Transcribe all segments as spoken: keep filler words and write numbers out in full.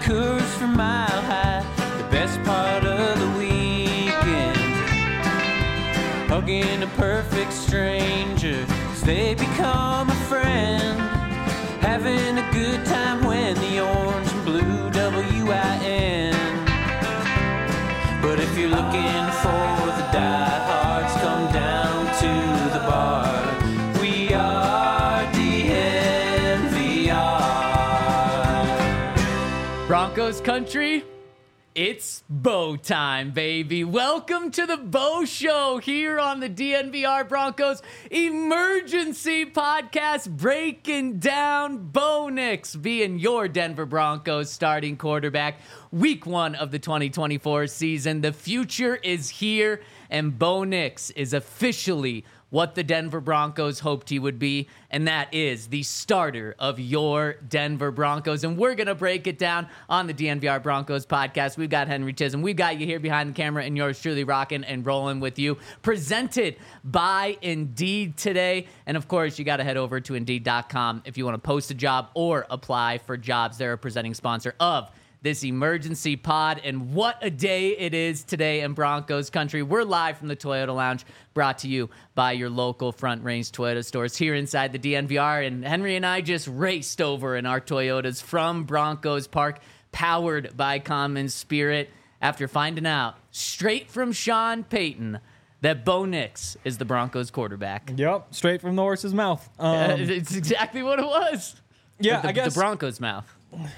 Coors from Mile High, the best part of the weekend. Hugging a perfect stranger as they become a friend. Having a good time when the orange and blue W I N. But if you're looking for the diehards, come down to the bar. We are D N V R. Broncos country, it's Bo time, baby. Welcome to the Bo Show here on the D N V R Broncos Emergency Podcast, breaking down Bo Nix being your Denver Broncos starting quarterback. Week one of the twenty twenty-four season. The future is here, and Bo Nix is officially what the Denver Broncos hoped he would be, and that is the starter of your Denver Broncos. And we're going to break it down on the D N V R Broncos podcast. We've got Henry Chisholm. We've got you here behind the camera, and yours truly rocking and rolling with you. Presented by Indeed today. And, of course, you got to head over to Indeed dot com if you want to post a job or apply for jobs. They're a presenting sponsor of this emergency pod, and what a day it is today in Broncos country. We're live from the Toyota Lounge, brought to you by your local Front Range Toyota stores here inside the D N V R, and Henry and I just raced over in our Toyotas from Broncos Park, powered by Common Spirit, after finding out straight from Sean Payton that Bo Nix is the Broncos quarterback. Yep, straight from the horse's mouth. Um, uh, it's exactly what it was. Yeah, the, I guess the Broncos' mouth.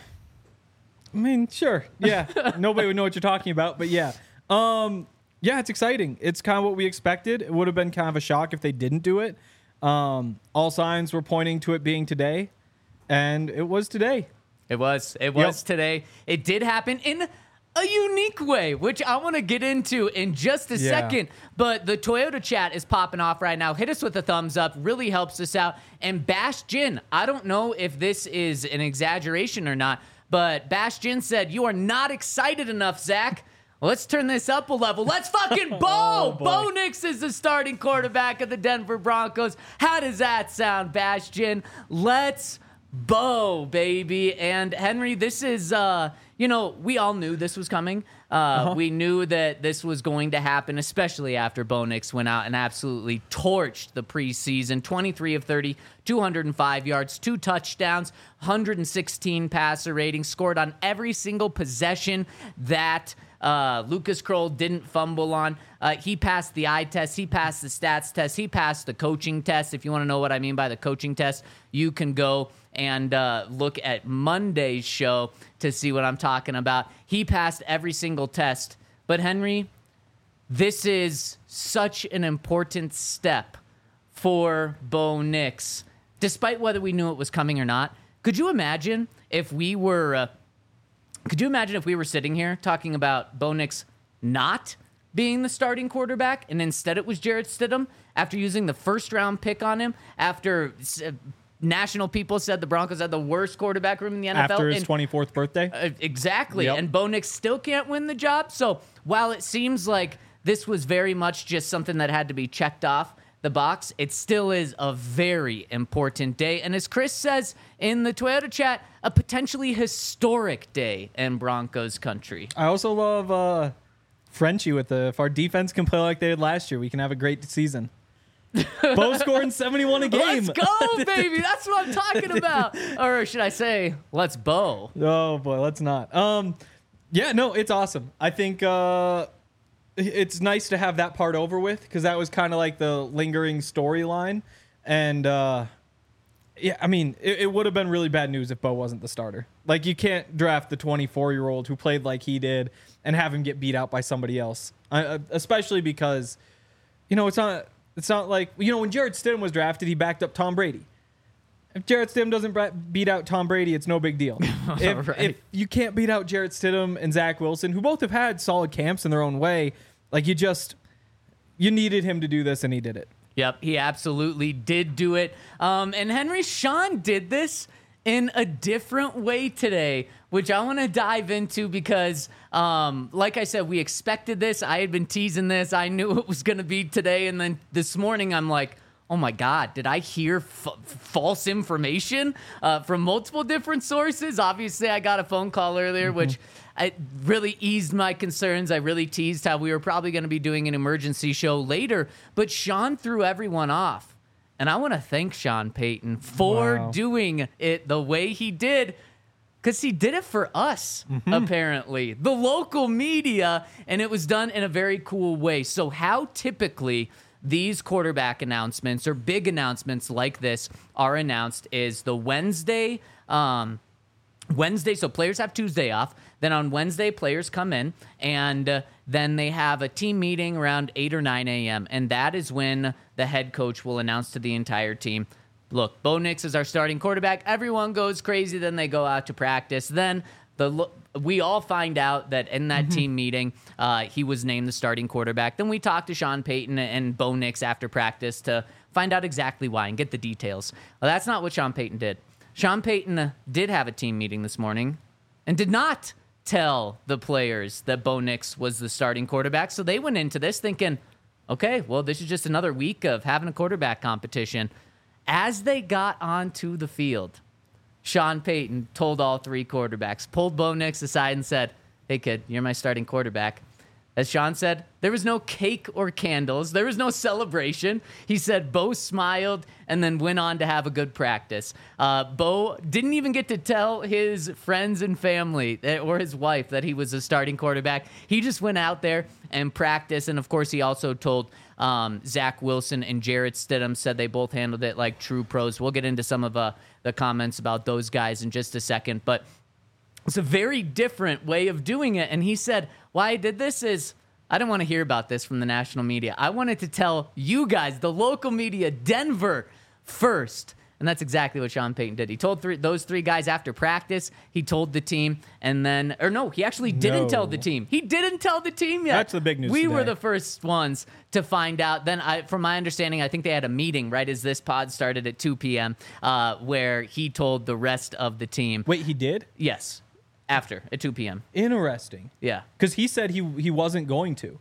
I mean, sure. Yeah. Nobody would know what you're talking about, but yeah. Um, yeah, it's exciting. It's kind of what we expected. It would have been kind of a shock if they didn't do it. Um, all signs were pointing to it being today, and it was today. It was. It was Yep. today. It did happen in a unique way, which I want to get into in just a Yeah. second. But the Toyota chat is popping off right now. Hit us with a thumbs up. Really helps us out. And Bash Jin, I don't know if this is an exaggeration or not, but Bash Jin said, "You are not excited enough, Zach. Let's turn this up a level. Let's fucking Bo! Oh, boy. Bo Nix is the starting quarterback of the Denver Broncos." How does that sound, Bash Jin? Let's Bo, baby. And Henry, this is, uh, you know, we all knew this was coming. Uh, uh-huh. We knew that this was going to happen, especially after Bo Nix went out and absolutely torched the preseason. twenty-three of thirty, two hundred five yards, two touchdowns, one hundred sixteen passer rating, scored on every single possession that uh, Lucas Kroll didn't fumble on. Uh, he passed the eye test. He passed the stats test. He passed the coaching test. If you want to know what I mean by the coaching test, you can go and uh, look at Monday's show to see what I'm talking about. He passed every single test. But Henry, this is such an important step for Bo Nix, despite whether we knew it was coming or not. Could you imagine if we were, uh, could you imagine if we were sitting here talking about Bo Nix not being the starting quarterback, and instead it was Jarrett Stidham after using the first round pick on him, after uh, national people said the Broncos had the worst quarterback room in the N F L. After his and, twenty-fourth birthday? Uh, exactly. Yep. And Bo Nix still can't win the job. So while it seems like this was very much just something that had to be checked off the box, it still is a very important day. And as Chris says in the Toyota chat, a potentially historic day in Broncos country. I also love uh, Frenchie with the, if our defense can play like they did last year, we can have a great season. Bo scoring seventy-one a game. Let's go, baby. That's what I'm talking about. Or should I say, let's Bo. Oh, boy, let's not. Um, yeah, no, it's awesome. I think uh, it's nice to have that part over with, because that was kind of like the lingering storyline. And, uh, yeah, I mean, it, it would have been really bad news if Bo wasn't the starter. Like, you can't draft the twenty-four-year-old who played like he did and have him get beat out by somebody else, uh, especially because, you know, it's not... It's not like, you know, when Jarrett Stidham was drafted, he backed up Tom Brady. If Jarrett Stidham doesn't beat out Tom Brady, it's no big deal. if, right. if you can't beat out Jarrett Stidham and Zach Wilson, who both have had solid camps in their own way, like you just, you needed him to do this, and he did it. Yep, he absolutely did do it. Um, and Henry, Sean did this in a different way today, which I want to dive into because, um, like I said, we expected this. I had been teasing this. I knew it was going to be today. And then this morning, I'm like, oh my God, did I hear f- false information uh, from multiple different sources? Obviously, I got a phone call earlier, mm-hmm. which I really eased my concerns. I really teased how we were probably going to be doing an emergency show later, but Sean threw everyone off. And I want to thank Sean Payton for wow. doing it the way he did, because he did it for us, mm-hmm. apparently, the local media, and it was done in a very cool way. So how typically these quarterback announcements or big announcements like this are announced is the Wednesday, um, Wednesday, so players have Tuesday off. Then on Wednesday, players come in, and uh, then they have a team meeting around eight or nine a.m., and that is when the head coach will announce to the entire team, look, Bo Nix is our starting quarterback. Everyone goes crazy. Then they go out to practice. Then the we all find out that in that mm-hmm. team meeting, uh, he was named the starting quarterback. Then we talk to Sean Payton and Bo Nix after practice to find out exactly why and get the details. Well, that's not what Sean Payton did. Sean Payton did have a team meeting this morning and did not tell the players that Bo Nix was the starting quarterback. So they went into this thinking, okay, well, this is just another week of having a quarterback competition. As they got onto the field, Sean Payton told all three quarterbacks, pulled Bo Nix aside and said, hey, kid, you're my starting quarterback. As Sean said, there was no cake or candles. There was no celebration. He said Bo smiled and then went on to have a good practice. Uh, Bo didn't even get to tell his friends and family or his wife that he was a starting quarterback. He just went out there and practiced. And, of course, he also told um, Zach Wilson and Jarrett Stidham, said they both handled it like true pros. We'll get into some of uh, the comments about those guys in just a second. But it's a very different way of doing it. And he said, why I did this is I didn't want to hear about this from the national media. I wanted to tell you guys, the local media, Denver, first. And that's exactly what Sean Payton did. He told three, those three guys after practice. He told the team. And then, or no, he actually didn't No. tell the team. He didn't tell the team yet. That's the big news We today. were the first ones to find out. Then, I, from my understanding, I think they had a meeting right as this pod started at two p.m. Uh, where he told the rest of the team. Wait, he did? Yes. After, at two p.m. Interesting. Yeah. Because he said he he wasn't going to.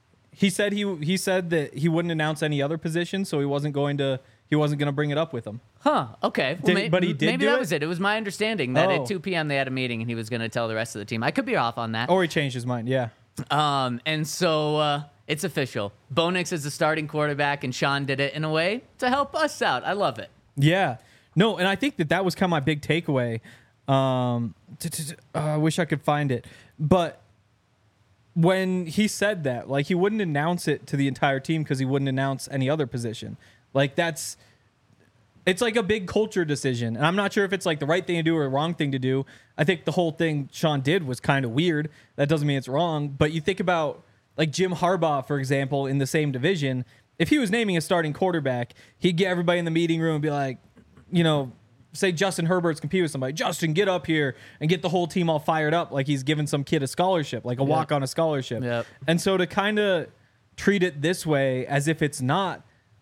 He said he he said that he wouldn't announce any other position, so he wasn't going to he wasn't going to bring it up with them. Huh. Okay. Well, Did- may- but he did Maybe do that it? was it. It was my understanding that Oh. at two p.m. they had a meeting and he was going to tell the rest of the team. I could be off on that. Or he changed his mind. Yeah. Um, and so uh, it's official. Bo Nix is the starting quarterback, and Sean did it in a way to help us out. I love it. Yeah. No, and I think that that was kind of my big takeaway. Um, t- t- t- uh, I wish I could find it, but when he said that, like, he wouldn't announce it to the entire team because he wouldn't announce any other position. Like, that's it's like a big culture decision, and I'm not sure if it's like the right thing to do or the wrong thing to do. I think the whole thing Sean did was kind of weird. That doesn't mean it's wrong, but you think about like Jim Harbaugh, for example, in the same division. If he was naming a starting quarterback, he'd get everybody in the meeting room and be like, you know, say Justin Herbert's compete with somebody. Justin, get up here and get the whole team all fired up like he's giving some kid a scholarship, like a Yep. walk on a scholarship. Yep. And so to kind of treat it this way as if it's not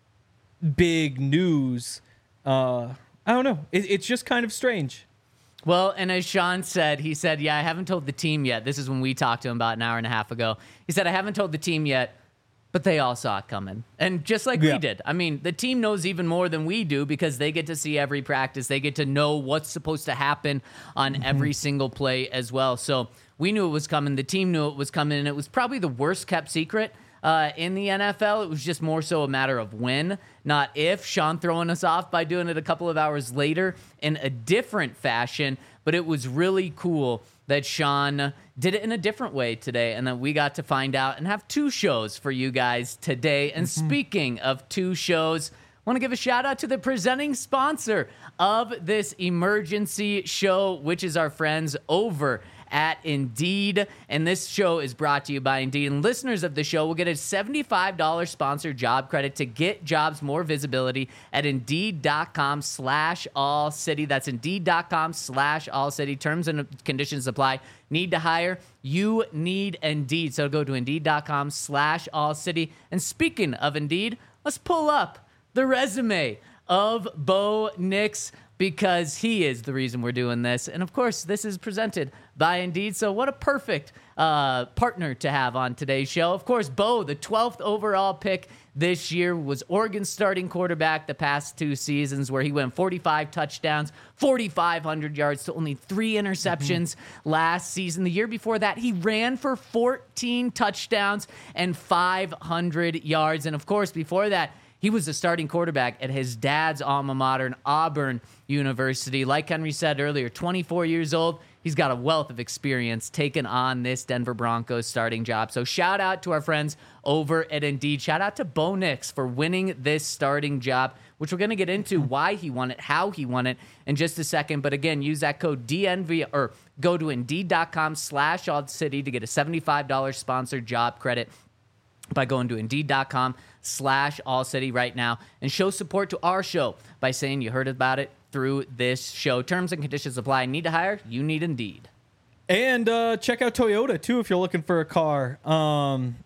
big news, uh, I don't know. It, it's just kind of strange. Well, and as Sean said, he said, yeah, I haven't told the team yet. This is when we talked to him about an hour and a half ago. He said, I haven't told the team yet, but they all saw it coming. And just like Yeah. we did. I mean, the team knows even more than we do because they get to see every practice. They get to know what's supposed to happen on Mm-hmm. every single play as well. So we knew it was coming. The team knew it was coming. And it was probably the worst kept secret uh, in the N F L. It was just more so a matter of when, not if. Sean throwing us off by doing it a couple of hours later in a different fashion. But it was really cool that Sean did it in a different way today, and that we got to find out and have two shows for you guys today. And Mm-hmm. speaking of two shows, I want to give a shout out to the presenting sponsor of this emergency show, which is our friends over at Indeed. And this show is brought to you by Indeed. And listeners of the show will get a seventy-five dollars sponsored job credit to get jobs more visibility at Indeed.com slash All City. That's Indeed.com slash All City. Terms and conditions apply. Need to hire? You need Indeed. So go to Indeed.com slash All City. And speaking of Indeed, let's pull up the resume of Bo Nix. because he is the reason we're doing this. And of course, this is presented by Indeed. So what a perfect uh, partner to have on today's show. Of course, Bo, the twelfth overall pick this year, was Oregon's starting quarterback the past two seasons, where he went forty-five touchdowns, forty-five hundred yards to only three interceptions mm-hmm. last season. The year before that, he ran for fourteen touchdowns and five hundred yards. And of course, before that, he was the starting quarterback at his dad's alma mater, Auburn University. Like Henry said earlier, twenty-four years old. He's got a wealth of experience taking on this Denver Broncos starting job. So shout out to our friends over at Indeed. Shout out to Bo Nix for winning this starting job, which we're going to get into why he won it, how he won it in just a second. But again, use that code D N V or go to Indeed.com slash All City to get a seventy-five dollars sponsored job credit by going to Indeed.com slash All City right now and show support to our show by saying you heard about it through this show. Terms and conditions apply. Need to hire? You need Indeed. And uh, check out Toyota, too, if you're looking for a car. Um,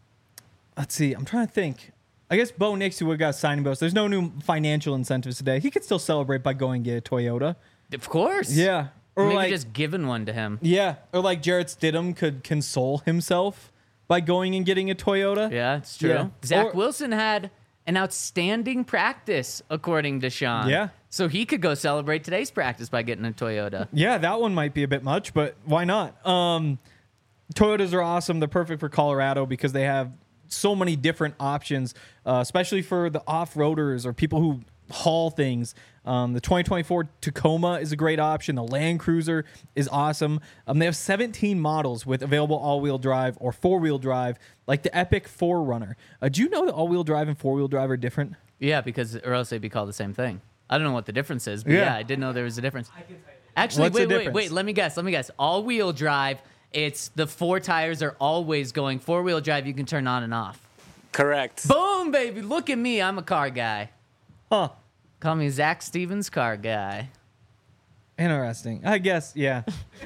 let's see. I'm trying to think. I guess Bo Nix, who would got signing bonus. There's no new financial incentives today. He could still celebrate by going and get a Toyota. Of course. Yeah. Or Maybe like, just giving one to him. Yeah. Or like Jarrett Stidham could console himself by going and getting a Toyota. Yeah, it's true. Yeah. Zach Or- Wilson had an outstanding practice, according to Sean. Yeah. So he could go celebrate today's practice by getting a Toyota. Yeah, that one might be a bit much, but why not? Um, Toyotas are awesome. They're perfect for Colorado because they have so many different options, uh, especially for the off-roaders or people who haul things. Um, the twenty twenty-four Tacoma is a great option. The Land Cruiser is awesome. Um, they have seventeen models with available all-wheel drive or four-wheel drive, like the Epic four runner. Uh, do you know that all-wheel drive and four-wheel drive are different? Yeah, because or else they'd be called the same thing. I don't know what the difference is, but yeah, Yeah. I didn't know there was a difference. Actually, What's the wait, wait, difference? wait. Let me guess. Let me guess. All-wheel drive, it's the four tires are always going. Four-wheel drive, you can turn on and off. Correct. Boom, baby. Look at me. I'm a car guy. Huh. Call me Zach Stevens, car guy. Interesting. I guess, yeah.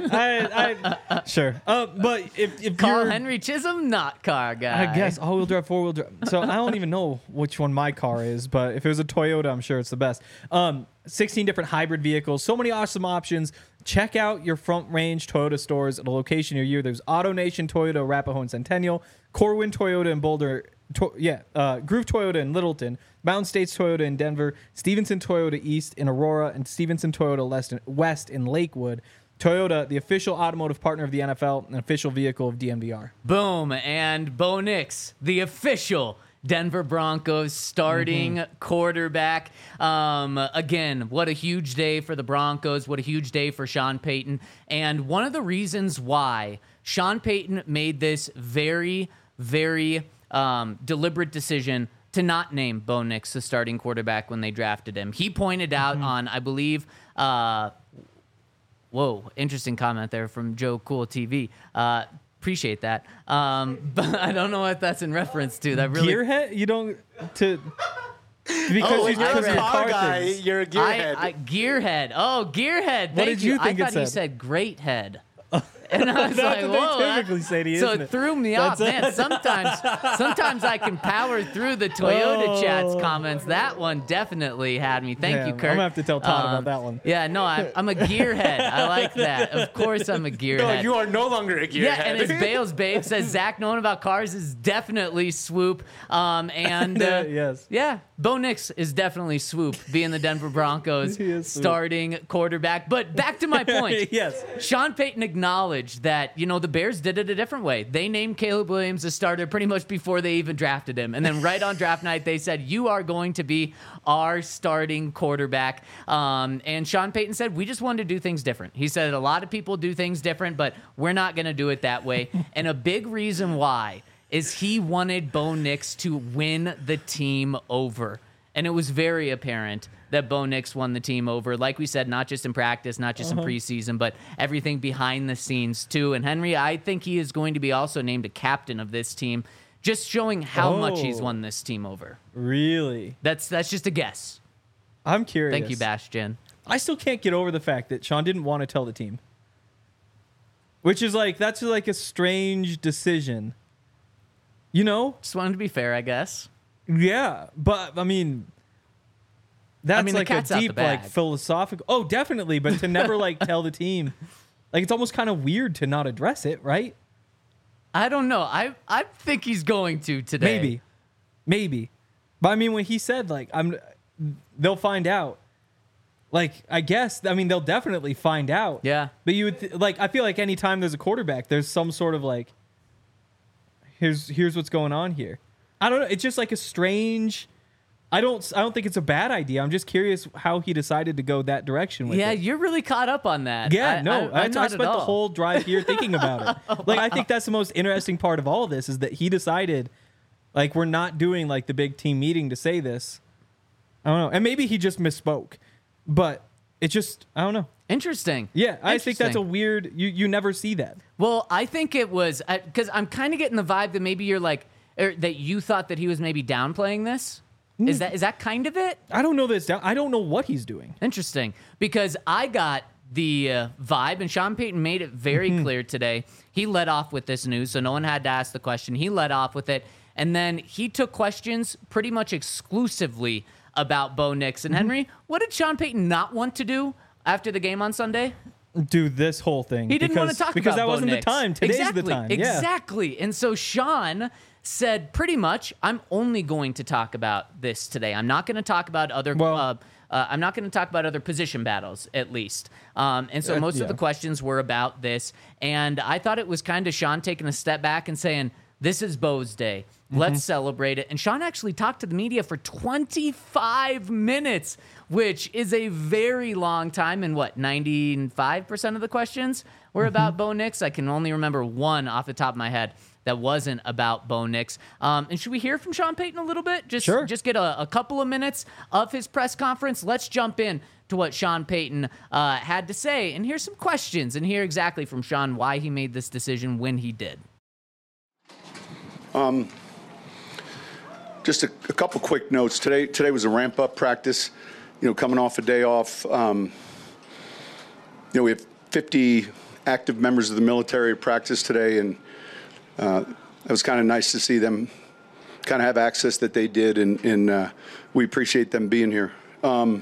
I, I sure. Uh, but if, if Call you're... Henry Chisholm, not car guy. I guess all-wheel drive, four-wheel drive. So I don't even know which one my car is, but if it was a Toyota, I'm sure it's the best. Um, sixteen different hybrid vehicles, so many awesome options. Check out your Front Range Toyota stores at a location near you. There's AutoNation, Toyota, Arapahoe, and Centennial, Corwin Toyota in Boulder, to- yeah, uh, Groove Toyota in Littleton, Mountain States Toyota in Denver, Stevenson Toyota East in Aurora, and Stevenson Toyota West in, West in Lakewood. Toyota, the official automotive partner of the N F L, and official vehicle of D N V R. Boom. And Bo Nix, the official Denver Broncos starting mm-hmm. quarterback. Um, again, what a huge day for the Broncos. What a huge day for Sean Payton. And one of the reasons why Sean Payton made this very, very um, deliberate decision to not name Bo Nix the starting quarterback when they drafted him. He pointed out mm-hmm. on, I believe, uh, whoa, interesting comment there from Joe Cool T V. Uh, appreciate that. Um, but I don't know what that's in reference to. That really Gearhead? You don't to because Oh, you when you're because a of car car guy, things. you're a gearhead. I, I, gearhead. Oh, gearhead. Thank What did you think I it thought you said? said great head. And I was That's like, what they whoa. that- typically say to you, so isn't it it? threw me off. That's- Man, sometimes sometimes I can power through the Toyota Oh. Chats comments. That one definitely had me. Thank Yeah, you, I'm Kurt. gonna have to tell Todd Um, about that one. Yeah, no, I, I'm a gearhead. I like that. Of course I'm a gearhead. no, you are no longer a gearhead. Yeah, and as Bales Babe says, Zach knowing about cars is definitely swoop. Um, and uh, Yes. yeah, Bo Nix is definitely swoop, being the Denver Broncos He is swoop. starting quarterback. But back to my point. Yes. Sean Payton acknowledged that, you know, the Bears did it a different way. They named Caleb Williams a starter pretty much before they even drafted him. And then right on draft night, they said, you are going to be our starting quarterback. Um, and Sean Payton said, we just wanted to do things different. He said, a lot of people do things different, but we're not going to do it that way. And a big reason why is he wanted Bo Nix to win the team over. And it was very apparent that Bo Nix won the team over. Like we said, not just in practice, not just Uh-huh. in preseason, but everything behind the scenes too. And Henry, I think he is going to be also named a captain of this team, just showing how much he's Oh. won this team over. Really? That's that's just a guess. I'm curious. Thank you, Bastion. I still can't get over the fact that Sean didn't want to tell the team. Which is like, that's like a strange decision. You know? Just wanted to be fair, I guess. Yeah. But, I mean, that's I mean, the like a cat's out the deep, like bag. philosophical. Oh, definitely. But to never like tell the team, like it's almost kind of weird to not address it, right? I don't know. I I think he's going to today. Maybe, maybe. But I mean, when he said like I'm, they'll find out. Like I guess I mean they'll definitely find out. Yeah. But you would th- like I feel like anytime there's a quarterback, there's some sort of like. Here's here's what's going on here. I don't know. It's just like a strange. I don't. I don't think it's a bad idea. I'm just curious how he decided to go that direction with Yeah, it. you're really caught up on that. Yeah, I, no, I, I, I'm I not spent at the all. whole drive here thinking about it. Like, I think that's the most interesting part of all of this is that he decided, like, we're not doing like the big team meeting to say this. I don't know, and maybe he just misspoke, but it just I don't know. Interesting. Yeah, I think that's a Interesting. weird. You you never see that. Well, I think it was because I'm kind of getting the vibe that maybe you're like er, that you thought that he was maybe downplaying this. Is that is that kind of it? I don't know this down. I don't know what he's doing. Interesting, because I got the uh, vibe, and Sean Payton made it very Mm-hmm. clear today. He led off with this news, so no one had to ask the question. He led off with it, and then he took questions pretty much exclusively about Bo Nix. And Mm-hmm. Henry, what did Sean Payton not want to do after the game on Sunday? Do this whole thing. He didn't because, want to talk because about that Bo wasn't Nix. the time. Today's exactly, the time. Yeah. Exactly. And so Sean said pretty much, I'm only going to talk about this today. I'm not going to talk about other Well- uh, uh, I'm not going to talk about other position battles, at least. Um, and so Uh, most yeah. of the questions were about this. And I thought it was kind of Sean taking a step back and saying, this is Bo's day. Mm-hmm. Let's celebrate it. And Sean actually talked to the media for twenty-five minutes, which is a very long time. And what, ninety-five percent of the questions were Mm-hmm. about Bo Nix? I can only remember one off the top of my head that wasn't about Bo Nix. Um, and should we hear from Sean Payton a little bit? Just, Sure. just get a, a couple of minutes of his press conference. Let's jump in to what Sean Payton uh, had to say. And here's some questions and hear exactly from Sean why he made this decision when he did. Just a, a couple quick notes. Today, today was a ramp-up practice. You know, coming off a day off. Um, you know, we have fifty active members of the military at practice today, and uh, it was kind of nice to see them kind of have access that they did, and, and uh, we appreciate them being here. Um,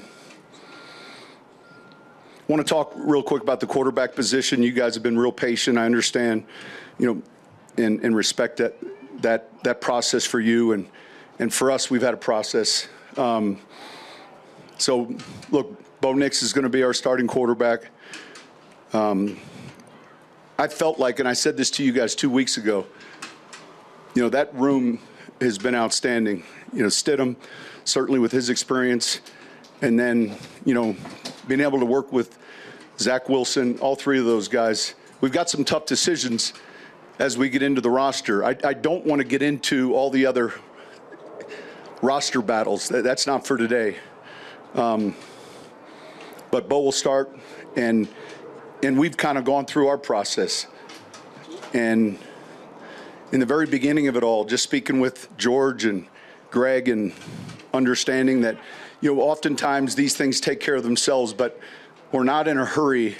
want to talk real quick about the quarterback position. You guys have been real patient. I understand, you know, and, and respect that that that process for you, and and for us, we've had a process. Um, so, look, Bo Nix is going to be our starting quarterback. Um, I felt like, and I said this to you guys two weeks ago, you know, that room has been outstanding. You know, Stidham, certainly with his experience, and then, you know, being able to work with Zach Wilson, all three of those guys. We've got some tough decisions as we get into the roster. I, I don't want to get into all the other roster battles. That, that's not for today. Um, but Bo will start, and and we've kind of gone through our process. And in the very beginning of it all, just speaking with George and Greg and understanding that, you know, oftentimes these things take care of themselves, but we're not in a hurry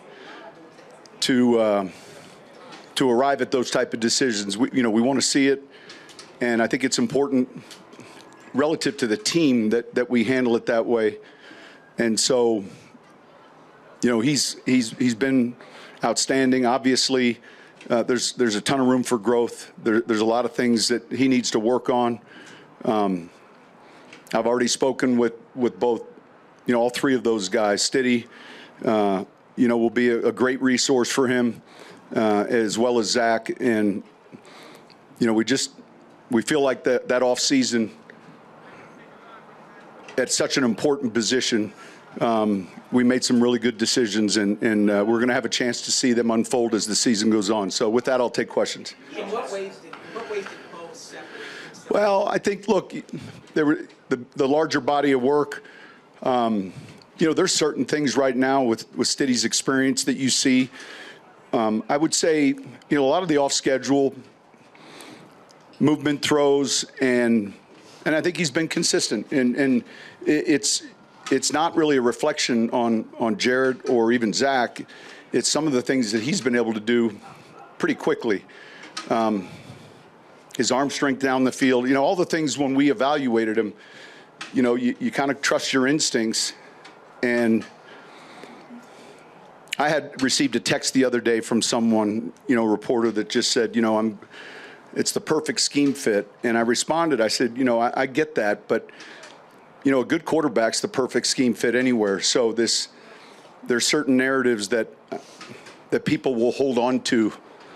to uh, to arrive at those type of decisions. We, you know, we want to see it, and I think it's important relative to the team that that we handle it that way. And so, you know, he's he's he's been outstanding. Obviously, uh, there's there's a ton of room for growth. There, there's a lot of things that he needs to work on. Um, I've already spoken with with both, you know, all three of those guys. Stiddy, uh, you know, will be a, a great resource for him, uh, as well as Zach. And you know, we just we feel like that that off season at such an important position. Um, we made some really good decisions, and, and uh, we're going to have a chance to see them unfold as the season goes on. So with that, I'll take questions. In what ways did, what ways did Bo separate himself? Well, I think, look, there were the, the larger body of work. Um, you know, there's certain things right now with, with Stiddy's experience that you see. Um, I would say, you know, a lot of the off-schedule movement throws, and and I think he's been consistent. And, and it's it's not really a reflection on, on Jared or even Zach. It's some of the things that he's been able to do pretty quickly. Um, his arm strength down the field, you know, all the things when we evaluated him, you know, you, you kind of trust your instincts. And I had received a text the other day from someone, you know, a reporter that just said, you know, I'm, it's the perfect scheme fit. And I responded, I said, you know, I, I get that, but, you know, a good quarterback's the perfect scheme fit anywhere. So this, there's certain narratives that, that people will hold on to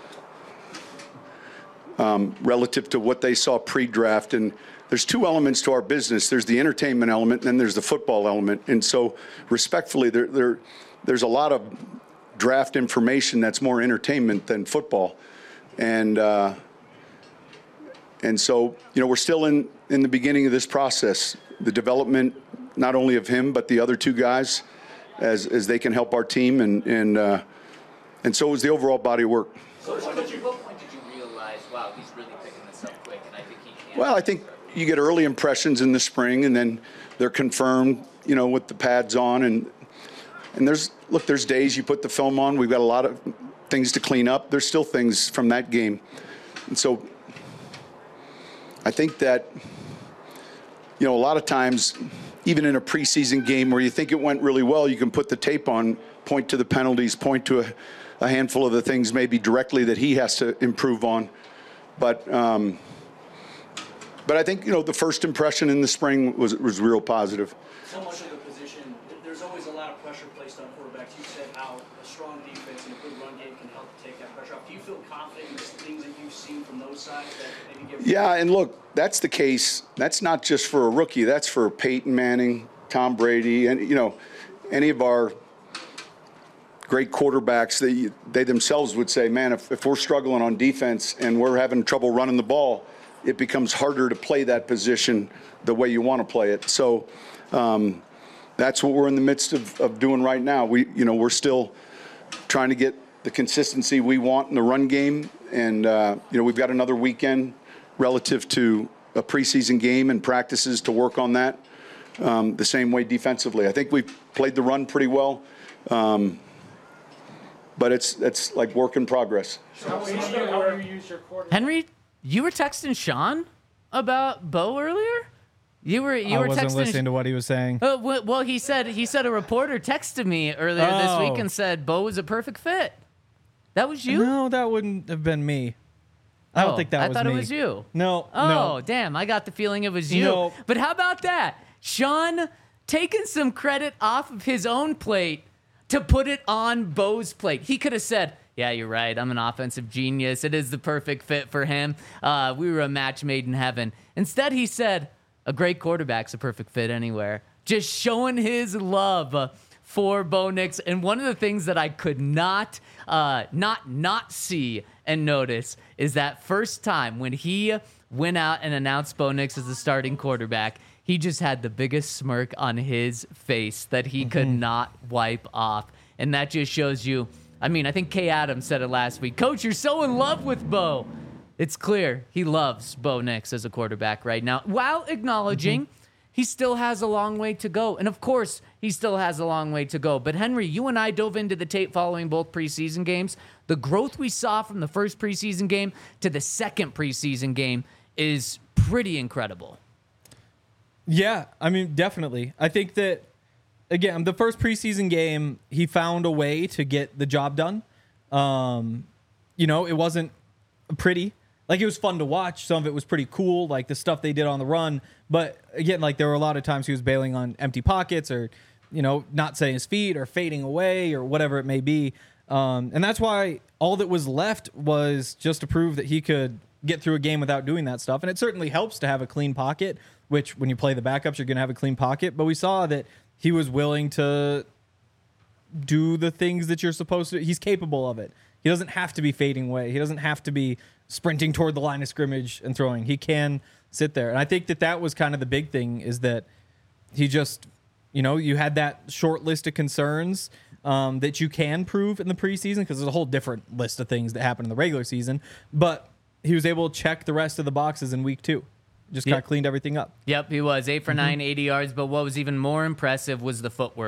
um, relative to what they saw pre-draft. And there's two elements to our business. There's the entertainment element, and then there's the football element. And so respectfully, there, there, there's a lot of draft information that's more entertainment than football. And, uh, and so, you know, we're still in, in the beginning of this process, the development, not only of him, but the other two guys, as, as they can help our team. And, and, uh, and so is the overall body of work. So at what point did you realize, wow, he's really picking this up quick, and I think he can? Well, I think you get early impressions in the spring, and then they're confirmed, you know, with the pads on. And and there's, look, there's days you put the film on. We've got a lot of things to clean up. There's still things from that game. And so I think that, you know, a lot of times, even in a preseason game where you think it went really well, you can put the tape on, point to the penalties, point to a, a handful of the things maybe directly that he has to improve on. But um, but I think, you know, the first impression in the spring was was real positive. So much of the position, there's always a lot of pressure placed on quarterbacks. You said how a strong defense and a good run game can help take that pressure off. Do you feel confident in the things that you've seen from those sides that maybe give? Yeah, and look, that's the case. That's not just for a rookie. That's for Peyton Manning, Tom Brady, and, you know, any of our great quarterbacks. They, they themselves would say, man, if, if we're struggling on defense and we're having trouble running the ball, it becomes harder to play that position the way you want to play it. So um, that's what we're in the midst of, of doing right now. We, you know, we're still trying to get the consistency we want in the run game. And, uh, you know, we've got another weekend relative to a preseason game and practices to work on that um, the same way defensively. I think we've played the run pretty well. Um, But it's it's like work in progress. Henry, you were texting Sean about Bo earlier? You were you I were wasn't texting listening to what he was saying. Uh, w- well, he said he said a reporter texted me earlier Oh. this week and said Bo was a perfect fit. That was you? No, that wouldn't have been me. I don't Oh, think that I was thought me. it was you. No, Oh, no. damn. I got the feeling it was you. No. But how about that? Sean taking some credit off of his own plate to put it on Bo's plate. He could have said, yeah, you're right. I'm an offensive genius. It is the perfect fit for him. Uh, we were a match made in heaven. Instead, he said, a great quarterback's a perfect fit anywhere. Just showing his love uh, for Bo Nix. And one of the things that I could not, uh, not, not see and notice is that first time when he went out and announced Bo Nix as the starting quarterback, he just had the biggest smirk on his face that he mm-hmm. could not wipe off. And that just shows you, I mean, I think Kay Adams said it last week. Coach, you're so in love with Bo. It's clear he loves Bo Nix as a quarterback right now, while acknowledging mm-hmm. he still has a long way to go. And of course, he still has a long way to go. But Henry, you and I dove into the tape following both preseason games. The growth we saw from the first preseason game to the second preseason game is pretty incredible. Yeah, I mean, definitely. I think that, again, the first preseason game, he found a way to get the job done. Um, you know, it wasn't pretty. Like, it was fun to watch. Some of it was pretty cool, like the stuff they did on the run. But, again, like, there were a lot of times he was bailing on empty pockets or, you know, not setting his feet or fading away or whatever it may be. Um, and that's why all that was left was just to prove that he could get through a game without doing that stuff. And it certainly helps to have a clean pocket, which when you play the backups, you're going to have a clean pocket. But we saw that he was willing to do the things that you're supposed to. He's capable of it. He doesn't have to be fading away. He doesn't have to be sprinting toward the line of scrimmage and throwing. He can sit there. And I think that that was kind of the big thing, is that he just, you know, you had that short list of concerns um, that you can prove in the preseason, because there's a whole different list of things that happen in the regular season. But he was able to check the rest of the boxes in week two. Just Yep. kind of cleaned everything up. Yep, he was eight for Mm-hmm. nine, eighty yards. But what was even more impressive was the footwork.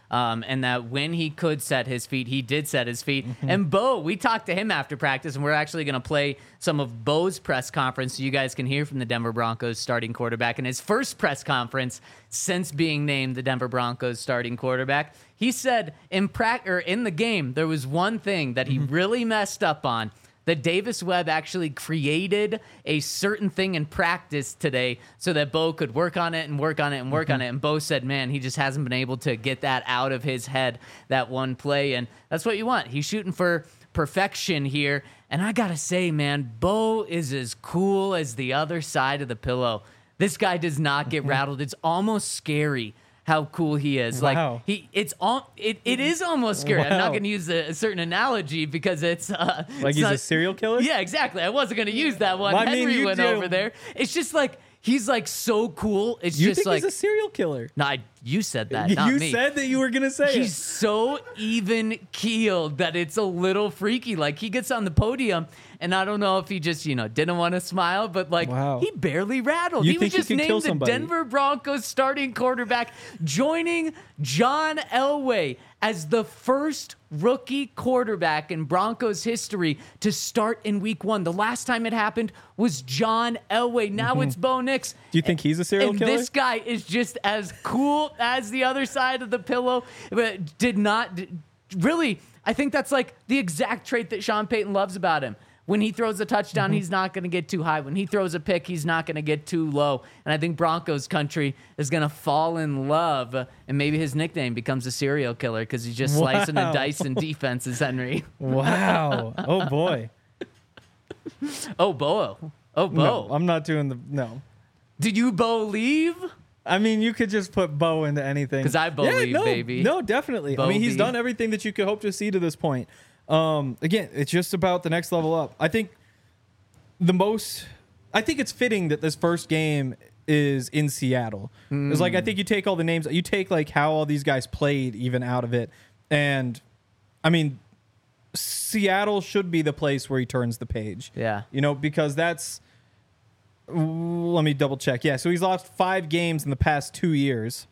Um, and that when he could set his feet, he did set his feet. Mm-hmm. And Bo, we talked to him after practice, and we're actually going to play some of Bo's press conference so you guys can hear from the Denver Broncos starting quarterback in his first press conference since being named the Denver Broncos starting quarterback. He said in pra- or in the game, there was one thing that he mm-hmm. really messed up on. That Davis Webb actually created a certain thing in practice today so that Bo could work on it and work on it and work mm-hmm. on it. And Bo said, man, he just hasn't been able to get that out of his head, that one play. And that's what you want. He's shooting for perfection here. And I got to say, man, Bo is as cool as the other side of the pillow. This guy does not get rattled. It's almost scary how cool he is. Wow. Like he, it's all, it, it is almost scary. Wow. I'm not going to use a, a certain analogy because it's uh, like it's he's not, a serial killer. Yeah, exactly. I wasn't going to use that one. Well, I Henry mean, went do. over there. It's just like he's like so cool. It's You just think like he's a serial killer? no, I, you said that. Not you me. said that you were gonna say He's it. so even keeled that it's a little freaky. Like he gets on the podium, and I don't know if he just, you know, didn't want to smile, but like Wow. he barely rattled. You he think was just he could kill named the somebody? Denver Broncos starting quarterback, joining John Elway as the first rookie quarterback in Broncos history to start in week one. The last time it happened was John Elway. Now Mm-hmm. it's Bo Nix. Do you think he's a serial and killer? This guy is just as cool as the other side of the pillow, but did not really. I think that's like the exact trait that Sean Payton loves about him. When he throws a touchdown, Mm-hmm. he's not going to get too high. When he throws a pick, he's not going to get too low. And I think Broncos country is going to fall in love, and maybe his nickname becomes a serial killer because he's just slicing Wow. and dicing defenses, Henry. Wow. Oh boy. Oh, Bo. Oh, Bo. No, I'm not doing the no. Did you believe? I mean, you could just put Bo into anything. 'Cause I believe, yeah, no, baby. No, definitely. I mean, he's Bo-B. done everything that you could hope to see to this point. Um, again, it's just about the next level up. I think the most. I think it's fitting that this first game is in Seattle. Mm. It's like I think you take all the names, you take like how all these guys played even out of it, and I mean, Seattle should be the place where he turns the page. Yeah. You know, because that's. Let me double check. Yeah, so he's lost five games in the past two years.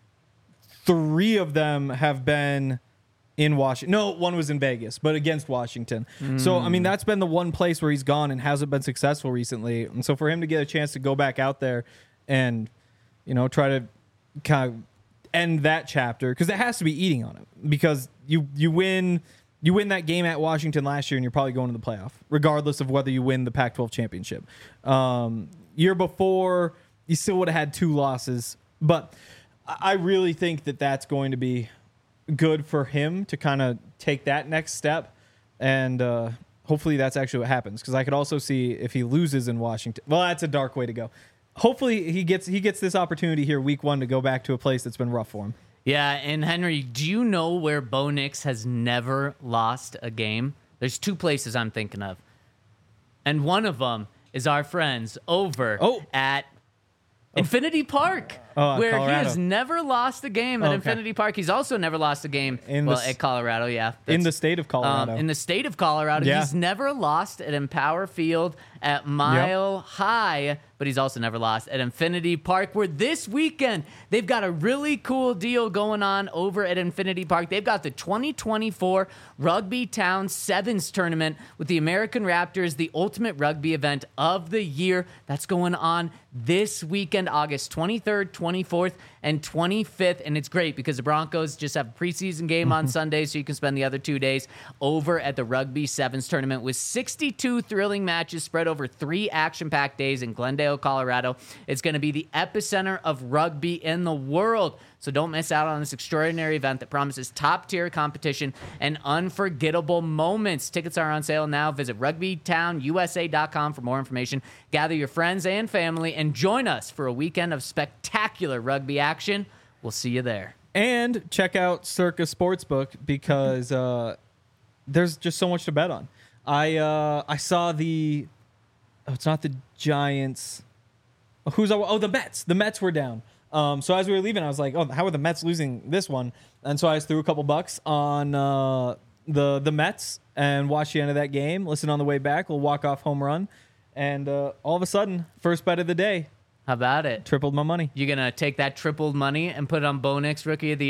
Three of them have been in Washington. No, one was in Vegas, but against Washington. Mm. So, I mean, that's been the one place where he's gone and hasn't been successful recently. And so for him to get a chance to go back out there and, you know, try to kind of end that chapter, because it has to be eating on him, because you you win... You win that game at Washington last year, and you're probably going to the playoff, regardless of whether you win the Pac twelve championship. Um, year before, you still would have had two losses. But I really think that that's going to be good for him to kind of take that next step. And uh, hopefully that's actually what happens, because I could also see if he loses in Washington. Well, that's a dark way to go. Hopefully he gets he gets this opportunity here week one to go back to a place that's been rough for him. Yeah, and Henry, do you know where Bo Nix has never lost a game? There's two places I'm thinking of. And one of them is our friends over Oh. at Infinity Park, Oh, where Colorado. he has never lost a game at Okay. Infinity Park. He's also never lost a game In well, the s- at Colorado, yeah. In That's- the state of Colorado. Um, in the state of Colorado. Yeah. He's never lost at Empower Field at Mile High, but he's also never lost at Infinity Park, where this weekend they've got a really cool deal going on over at Infinity Park. They've got the twenty twenty-four Rugby Town Sevens Tournament with the American Raptors, the ultimate rugby event of the year. That's going on this weekend, August twenty-third, twenty-fourth, and twenty-fifth. And it's great because the Broncos just have a preseason game on Sunday, so you can spend the other two days over at the Rugby Sevens Tournament with sixty-two thrilling matches spread over three action-packed days in Glendale, Colorado. It's going to be the epicenter of rugby in the world. So don't miss out on this extraordinary event that promises top-tier competition and unforgettable moments. Tickets are on sale now. Visit rugby town u s a dot com for more information. Gather your friends and family and join us for a weekend of spectacular rugby action. We'll see you there. And check out Circa Sportsbook, because uh, there's just so much to bet on. I uh, I saw the oh, it's not the Giants. Oh, who's oh the Mets? The Mets were down. Um, so as we were leaving, I was like, oh, how are the Mets losing this one? And so I just threw a couple bucks on uh, the the Mets and watched the end of that game. Listen on the way back, we'll walk off home run, and uh, all of a sudden, first bet of the day, How about it? tripled my money. You gonna take that tripled money and put it on Bo Nix Rookie of the Year?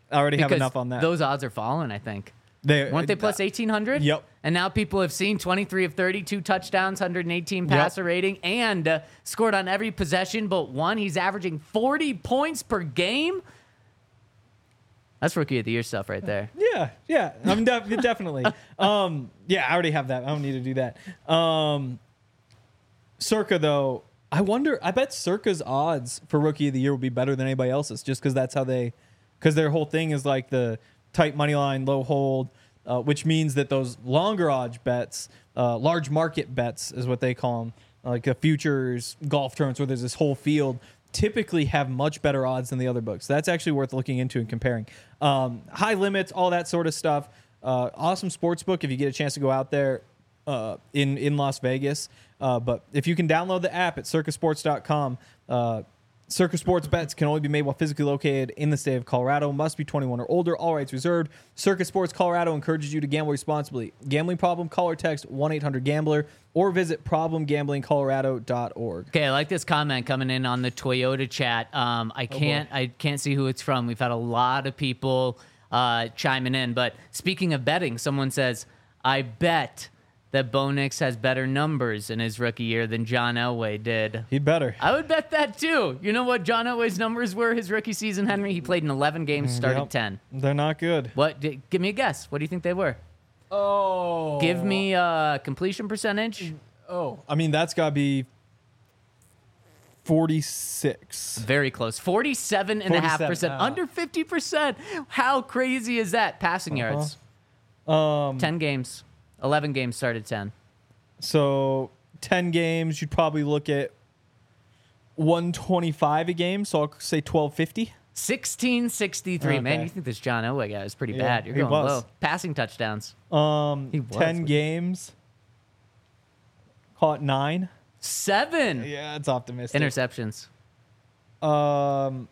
I already have Because enough on that. Those odds are falling, I think. They, Weren't they plus eighteen hundred? Yep. And now people have seen twenty-three of thirty-two touchdowns, one hundred eighteen passer Yep. rating, and uh, scored on every possession but one. He's averaging forty points per game. That's rookie of the year stuff right there. Yeah, yeah. I'm def- definitely. Um, yeah, I already have that. I don't need to do that. Um, Circa, though, I wonder, I bet Circa's odds for rookie of the year would be better than anybody else's just because that's how they, because their whole thing is like the tight money line, low hold, uh, which means that those longer odds bets, uh, large market bets is what they call them, like a futures golf tournaments where there's this whole field, typically have much better odds than the other books. That's actually worth looking into and comparing. Um, high limits, all that sort of stuff. Uh, awesome sports book if you get a chance to go out there uh, in, in Las Vegas. Uh, but if you can download the app at circa sports dot com, uh, Circa Sports bets can only be made while physically located in the state of Colorado. Must be twenty-one or older. All rights reserved. Circa Sports Colorado encourages you to gamble responsibly. Gambling problem? Call or text one eight hundred gambler or visit problem gambling colorado dot org. Okay, I like this comment coming in on the Toyota chat. Um, I can't I can't see who it's from. We've had a lot of people uh, chiming in. But speaking of betting, someone says, I bet that Bo Nix has better numbers in his rookie year than John Elway did. He'd better. I would bet that too. You know what John Elway's numbers were his rookie season, Henry? He played in eleven games, started Yep. ten. They're not good. What? d- Give me a guess. What do you think they were? Oh. Give me a completion percentage. Oh. I mean, that's got to be forty-six. Very close. forty-seven point five percent. forty-seven, ah. Under fifty percent. How crazy is that? Passing yards. Um, ten games. eleven games, started ten. So ten games, you'd probably look at one twenty-five a game. So I'll say twelve fifty. sixteen sixty-three. Man, Okay. you think this John Elway guy is pretty Yeah, bad. You're he going was. low. Passing touchdowns. Um, He was, ten wasn't he? games. Call it nine. Seven. Yeah, it's optimistic. Interceptions. Um,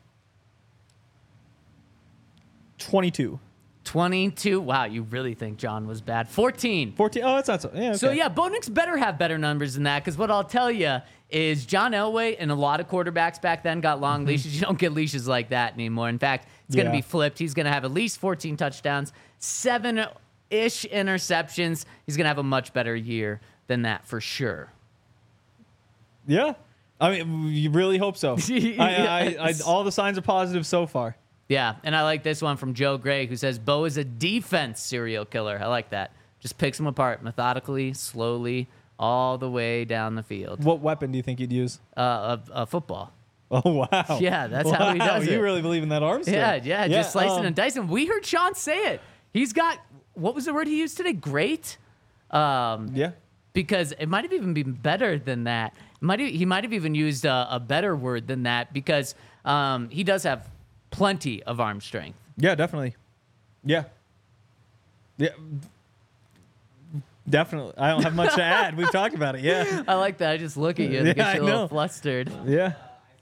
twenty-two. twenty-two. Wow, you really think John was bad. fourteen. fourteen. Oh, that's not so. Yeah, okay. So, yeah, Bo Nix better have better numbers than that because what I'll tell you is John Elway and a lot of quarterbacks back then got long leashes. You don't get leashes like that anymore. In fact, it's going to Yeah. be flipped. He's going to have at least fourteen touchdowns, seven-ish interceptions. He's going to have a much better year than that for sure. Yeah. I mean, you really hope so. I, I, I, Yes. all the signs are positive so far. Yeah, and I like this one from Joe Gray, who says, Bo is a defense serial killer. I like that. Just picks them apart methodically, slowly, all the way down the field. What weapon do you think you'd use? Uh, a, a football. Oh, wow. Yeah, that's how he Wow, does You it. really believe in that arm strength. Yeah, yeah, just slicing um, and dicing. We heard Sean say it. He's got, what was the word he used today? Great? Um, Yeah. because it might have even been better than that. Might have, he might have even used a, a better word than that because um, he does have plenty of arm strength. Yeah, definitely. Yeah. Yeah. Definitely. I don't have much to add. We've talked about it. Yeah. I like that. I just look at you and Yeah, get I you a little know. flustered. Yeah.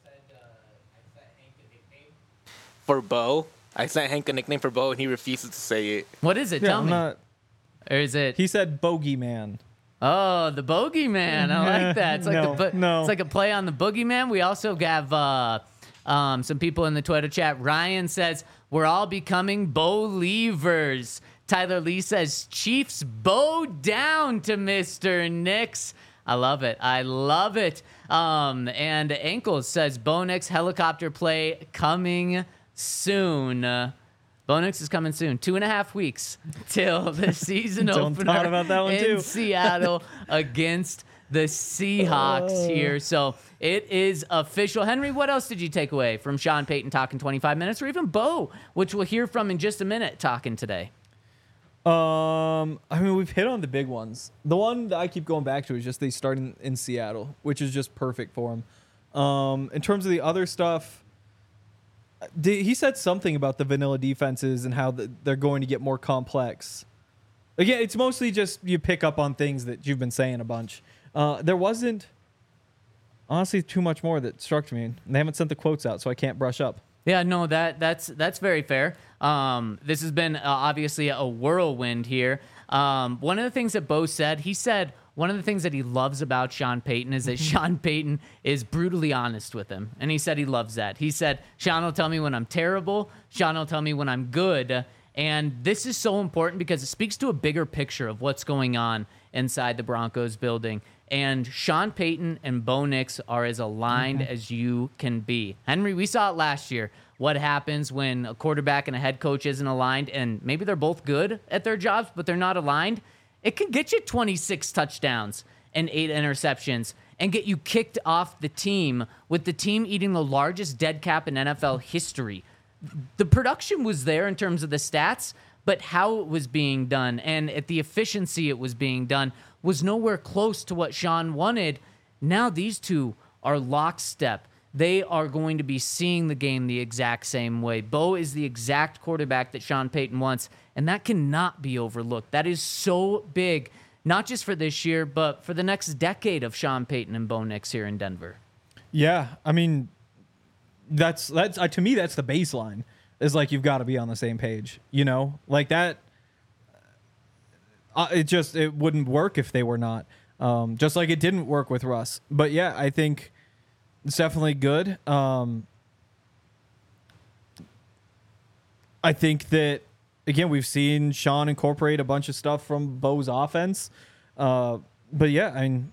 For Bo, I sent Hank a nickname for Bo, and he refuses to say it. What is it? Yeah, Tell I'm me. not. Or is it? He said bogeyman. Oh, the Bogeyman. I like that. It's like No, the bo- no. It's like a play on the Boogeyman. We also have uh, um, some people in the Twitter chat. Ryan says we're all becoming Bo-leavers. Tyler Lee says Chiefs bow down to Mister Nix. I love it. I love it. Um, and Ankles says Bo Nix helicopter play coming soon. Uh, Bo Nix is coming soon. Two and a half weeks till the season Don't opener thought about that one, in too. Seattle against the Seahawks here. So it is official. Henry, what else did you take away from Sean Payton talking twenty-five minutes, or even Bo, which we'll hear from in just a minute, talking today? Um, I mean, we've hit on the big ones. The one that I keep going back to is just they start in, in Seattle, which is just perfect for him. Um, in terms of the other stuff, Did, he said something about the vanilla defenses and how the, they're going to get more complex. Again, it's mostly just you pick up on things that you've been saying a bunch. Uh, there wasn't, honestly, too much more that struck me. And they haven't sent the quotes out, so I can't brush up. Yeah, no, that that's that's very fair. Um, this has been uh, obviously a whirlwind here. Um, one of the things that Bo said, he said one of the things that he loves about Sean Payton is that Sean Payton is brutally honest with him. And he said he loves that. He said, Sean will tell me when I'm terrible. Sean will tell me when I'm good. And this is so important because it speaks to a bigger picture of what's going on inside the Broncos building. And Sean Payton and Bo Nix are as aligned mm-hmm. as you can be. Henry, we saw it last year. What happens when a quarterback and a head coach isn't aligned, and maybe they're both good at their jobs, but they're not aligned? It can get you twenty-six touchdowns and eight interceptions and get you kicked off the team, with the team eating the largest dead cap in N F L history. The production was there in terms of the stats, but how it was being done and at the efficiency it was being done was nowhere close to what Sean wanted. Now these two are lockstep. They are going to be seeing the game the exact same way. Bo is the exact quarterback that Sean Payton wants, and that cannot be overlooked. That is so big, not just for this year, but for the next decade of Sean Payton and Bo Nix here in Denver. Yeah, I mean, that's that's uh, to me that's the baseline. Is like you've got to be on the same page, you know, like that. Uh, it just it wouldn't work if they were not. Um, just like it didn't work with Russ. But yeah, I think it's definitely good. Um, I think that again we've seen Sean incorporate a bunch of stuff from Bo's offense. Uh, but yeah, I mean.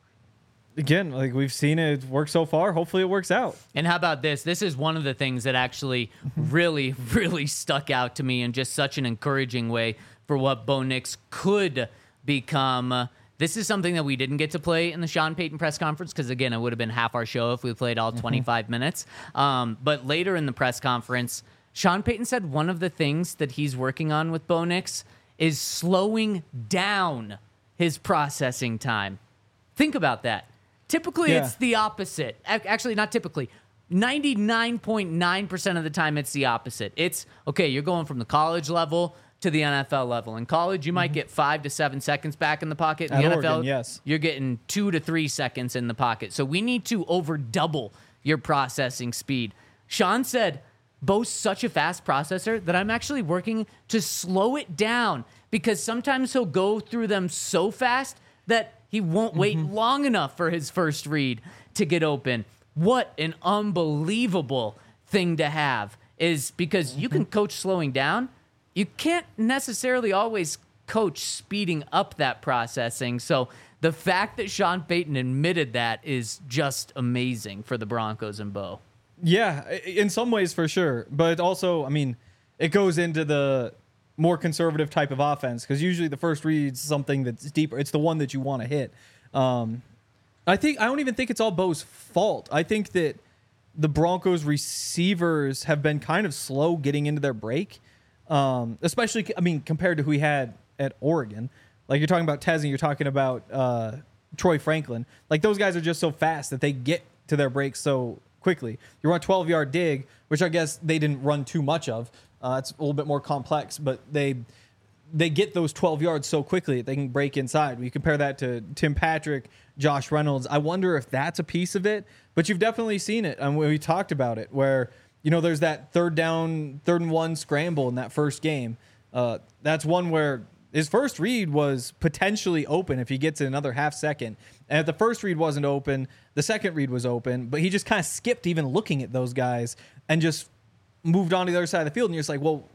Again, like we've seen it work so far. Hopefully it works out. And how about this? This is one of the things that actually really, really stuck out to me in just such an encouraging way for what Bo Nix could become. Uh, this is something that we didn't get to play in the Sean Payton press conference because, again, it would have been half our show if we played all twenty-five mm-hmm. minutes. Um, but later in the press conference, Sean Payton said one of the things that he's working on with Bo Nix is slowing down his processing time. Think about that. Typically, yeah. it's the opposite. Actually, not typically. ninety-nine point nine percent of the time, it's the opposite. It's, okay, you're going from the college level to the N F L level. In college, you might mm-hmm. get five to seven seconds back in the pocket. In At the Oregon, N F L, yes. you're getting two to three seconds in the pocket. So we need to over double your processing speed. Sean said, Bo's such a fast processor that I'm actually working to slow it down because sometimes he'll go through them so fast that he won't wait mm-hmm. long enough for his first read to get open. What an unbelievable thing to have is because mm-hmm. you can coach slowing down. You can't necessarily always coach speeding up that processing. So the fact that Sean Payton admitted that is just amazing for the Broncos and Bo. Yeah, in some ways for sure. But also, I mean, it goes into the more conservative type of offense because usually the first read's something that's deeper. It's the one that you want to hit. Um, I think I don't even think it's all Bo's fault. I think that the Broncos receivers have been kind of slow getting into their break, um, especially I mean compared to who he had at Oregon. Like you're talking about Tez and you're talking about uh, Troy Franklin. Like those guys are just so fast that they get to their breaks so quickly. You run a twelve-yard dig, which I guess they didn't run too much of. Uh, it's a little bit more complex, but they they get those twelve yards so quickly that they can break inside. We compare that to Tim Patrick, Josh Reynolds. I wonder if that's a piece of it, but you've definitely seen it. And we talked about it where, you know, there's that third down, third and one scramble in that first game. Uh, that's one where his first read was potentially open if he gets another half second. And if the first read wasn't open, the second read was open, but he just kind of skipped even looking at those guys and just moved on to the other side of the field. And you're just like, well,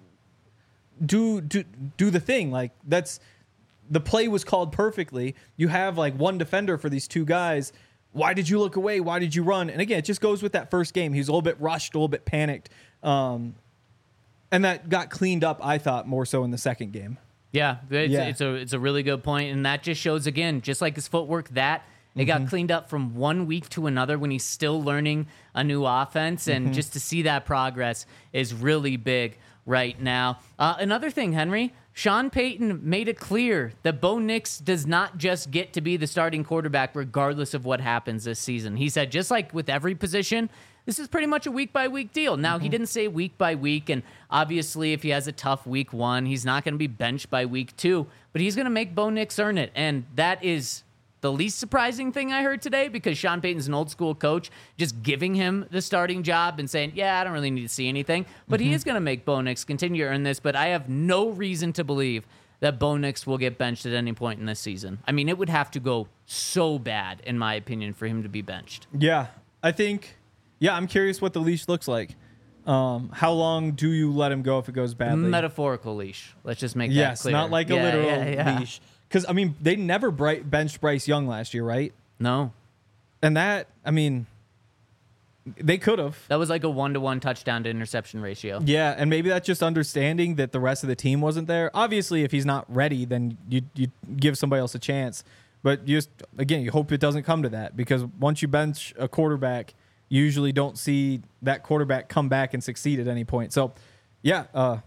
do do do the thing. Like that's the play was called perfectly. You have like one defender for these two guys. Why did you look away? Why did you run? And again, it just goes with that first game. He was a little bit rushed, a little bit panicked. Um, and that got cleaned up, I thought, more so in the second game. Yeah, it's, yeah. it's a it's a really good point, and that just shows again, just like his footwork, that it mm-hmm. got cleaned up from one week to another when he's still learning a new offense, and mm-hmm. just to see that progress is really big right now. Uh, another thing, Henry, Sean Payton made it clear that Bo Nix does not just get to be the starting quarterback regardless of what happens this season. He said, just like with every position, this is pretty much a week-by-week deal. Now, mm-hmm. he didn't say week by week, and obviously if he has a tough week one, he's not going to be benched by week two, but he's going to make Bo Nix earn it, and that is the least surprising thing I heard today because Sean Payton's an old-school coach, just giving him the starting job and saying, yeah, I don't really need to see anything, but mm-hmm. he is going to make Bo Nix continue to earn this, but I have no reason to believe that Bo Nix will get benched at any point in this season. I mean, it would have to go so bad, in my opinion, for him to be benched. Yeah, I think, yeah, I'm curious what the leash looks like. Um, how long do you let him go if it goes badly? Metaphorical leash. Let's just make yes, that clear. not like a yeah, literal yeah, yeah. leash. Because, I mean, they never bright benched Bryce Young last year, right? No. And that, I mean, they could have. That was like a one-to-one touchdown to interception ratio. Yeah, and maybe that's just understanding that the rest of the team wasn't there. Obviously, if he's not ready, then you you give somebody else a chance. But you just, again, you hope it doesn't come to that, because once you bench a quarterback, you usually don't see that quarterback come back and succeed at any point. So, yeah, uh,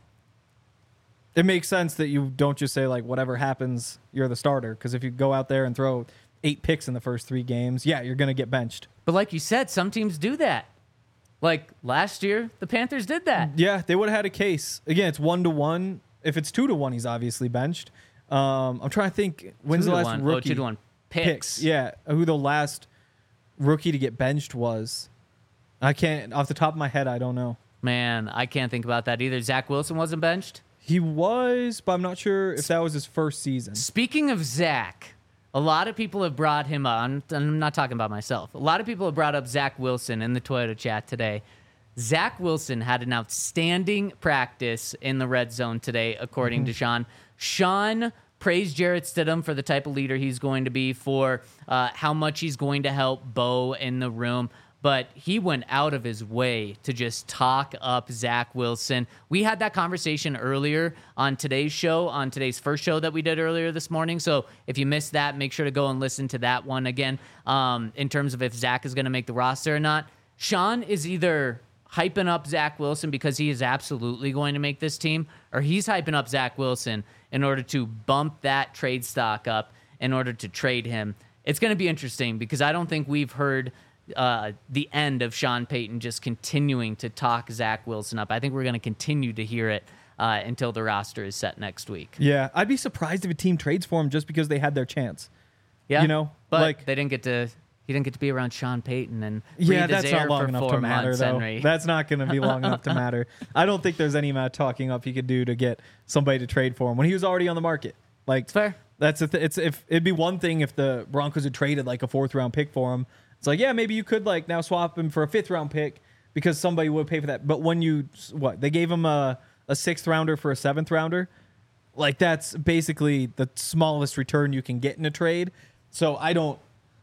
it makes sense that you don't just say, like, whatever happens, you're the starter. Because if you go out there and throw eight picks in the first three games, yeah, you're going to get benched. But like you said, some teams do that. Like last year, the Panthers did that. Yeah, they would have had a case. Again, it's one to one. If it's two to one, he's obviously benched. Um, I'm trying to think. When's Two the to last one. rookie? Oh, two to one. Picks. Yeah, who the last rookie to get benched was? I can't, off the top of my head, I don't know. Man, I can't think about that either. Zach Wilson wasn't benched? He was, but I'm not sure if that was his first season. Speaking of Zach, a lot of people have brought him up. I'm, I'm not talking about myself. A lot of people have brought up Zach Wilson in the Toyota chat today. Zach Wilson had an outstanding practice in the red zone today, according mm-hmm. to Sean. Sean praised Jarrett Stidham for the type of leader he's going to be, for uh, how much he's going to help Bo in the room. But he went out of his way to just talk up Zach Wilson. We had that conversation earlier on today's show, on today's first show that we did earlier this morning. So if you missed that, make sure to go and listen to that one again, um, in terms of if Zach is going to make the roster or not. Sean is either hyping up Zach Wilson because he is absolutely going to make this team, or he's hyping up Zach Wilson in order to bump that trade stock up in order to trade him. It's going to be interesting because I don't think we've heard uh, the end of Sean Payton just continuing to talk Zach Wilson up. I think we're going to continue to hear it uh, until the roster is set next week. Yeah, I'd be surprised if a team trades for him just because they had their chance. Yeah, you know, but like, they didn't get to. He didn't get to be around Sean Payton and yeah, breathe his that's air not long for enough four to matter, months, though. Henry. That's not going to be long enough to matter. I don't think there's any amount of talking up he could do to get somebody to trade for him when he was already on the market. Like, It's fair. That's a th- it's if it'd be one thing if the Broncos had traded like a fourth round pick for him. It's like, yeah, maybe you could like now swap him for a fifth round pick because somebody would pay for that. But when you what they gave him a a sixth rounder for a seventh rounder, like that's basically the smallest return you can get in a trade. So I don't.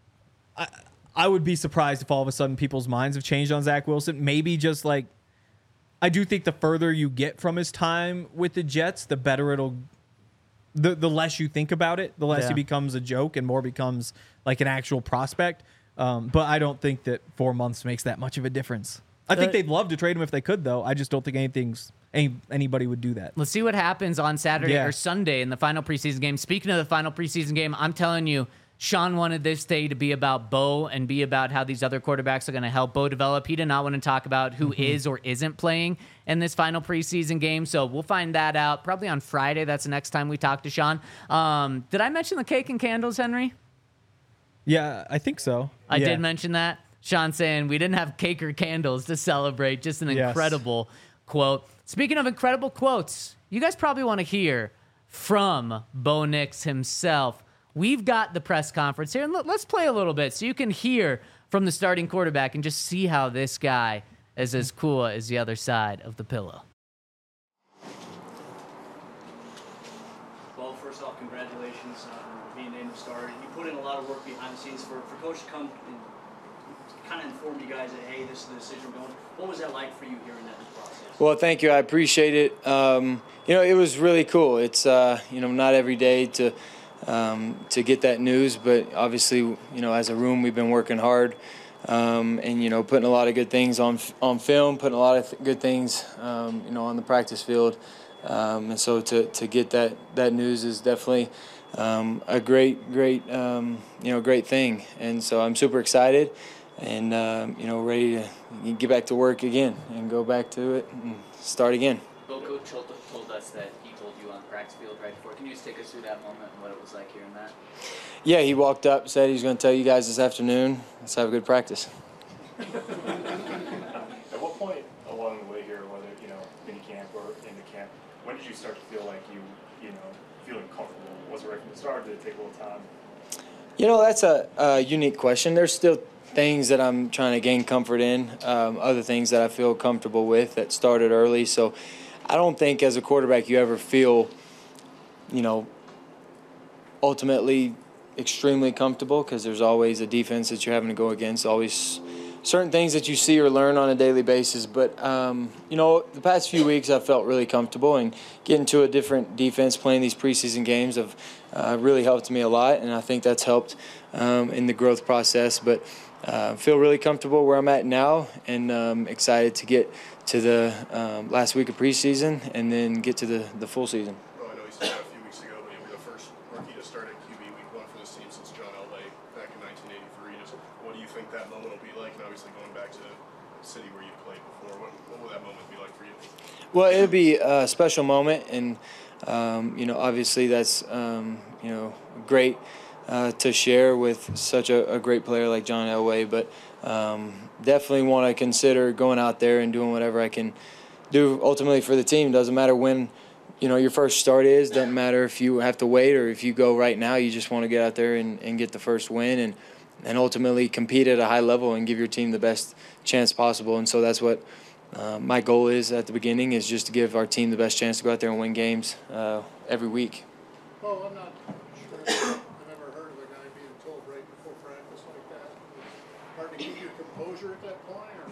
I, I would be surprised if all of a sudden people's minds have changed on Zach Wilson. Maybe just like, I do think the further you get from his time with the Jets, the better it'll, the, the less you think about it, the less Yeah. he becomes a joke and more becomes like an actual prospect. Um, but I don't think that four months makes that much of a difference. I think Uh, they'd love to trade him if they could, though. I just don't think anything's any, anybody would do that. Let's see what happens on Saturday Yeah. or Sunday in the final preseason game. Speaking of the final preseason game, I'm telling you, Sean wanted this day to be about Bo and be about how these other quarterbacks are going to help Bo develop. He did not want to talk about who Mm-hmm. is or isn't playing in this final preseason game. So we'll find that out probably on Friday. That's the next time we talk to Sean. Um, did I mention the cake and candles, Henry? Yeah, I think so. I Yeah. did mention that. Sean saying we didn't have cake or candles to celebrate. Just an Yes. incredible quote. Speaking of incredible quotes, you guys probably want to hear from Bo Nix himself. We've got the press conference here, and let- let's play a little bit so you can hear from the starting quarterback and just see how this guy is as cool as the other side of the pillow. Well, first off, congratulations on being named the starter. You put in a lot of work behind the scenes for, for Coach to come and kind of inform you guys that, hey, this is the decision we're going. What was that like for you hearing that process? Well, thank you. I appreciate it. Um, you know, it was really cool. It's, uh, you know, not every day to um, to get that news, but obviously, you know, as a room, we've been working hard um, and, you know, putting a lot of good things on on film, putting a lot of th- good things, um, you know, on the practice field. Um, and so to, to get that, that news is definitely um, a great, great, um, you know, great thing. And so I'm super excited and, um, you know, ready to get back to work again and go back to it and start again. Well, Coach told, told us that he told you on the practice field right before. Can you just take us through that moment and what it was like hearing that? Yeah, he walked up, said he was going to tell you guys this afternoon. Let's have a good practice. At what point along the way here, whether, you know, any camp or in the camp. When did you start to feel like you, you know, feeling comfortable? Was it right from the start? Did it take a little time? You know, that's a, a unique question. There's still things that I'm trying to gain comfort in, um, other things that I feel comfortable with that started early. So I don't think as a quarterback you ever feel, you know, ultimately extremely comfortable, because there's always a defense that you're having to go against, always certain things that you see or learn on a daily basis. But, um, you know, the past few weeks I felt really comfortable, and getting to a different defense, playing these preseason games have uh, really helped me a lot, and I think that's helped um, in the growth process. But I uh, feel really comfortable where I'm at now, and um, excited to get to the um, last week of preseason and then get to the, the full season. Well, I know you said that a few weeks ago, but you'll be the first rookie to start at Q B week one for this team since John Elway back in nineteen eighty-three. Just what do you think that moment will be like? And obviously going back to the city where you played before, what, what will that moment be like for you? Well, it'll be a special moment, and um, you know, obviously that's um, you know great uh, to share with such a, a great player like John Elway. But um, definitely want to consider going out there and doing whatever I can do ultimately for the team. Doesn't matter when, you know, your first start is. Doesn't matter if you have to wait or if you go right now. You just want to get out there and, and get the first win, and and ultimately compete at a high level and give your team the best chance possible. And so that's what uh, my goal is at the beginning, is just to give our team the best chance to go out there and win games uh, every week. Well, I'm not sure I've ever heard of a guy being told right before practice like that. Hard to keep your composure at that point, or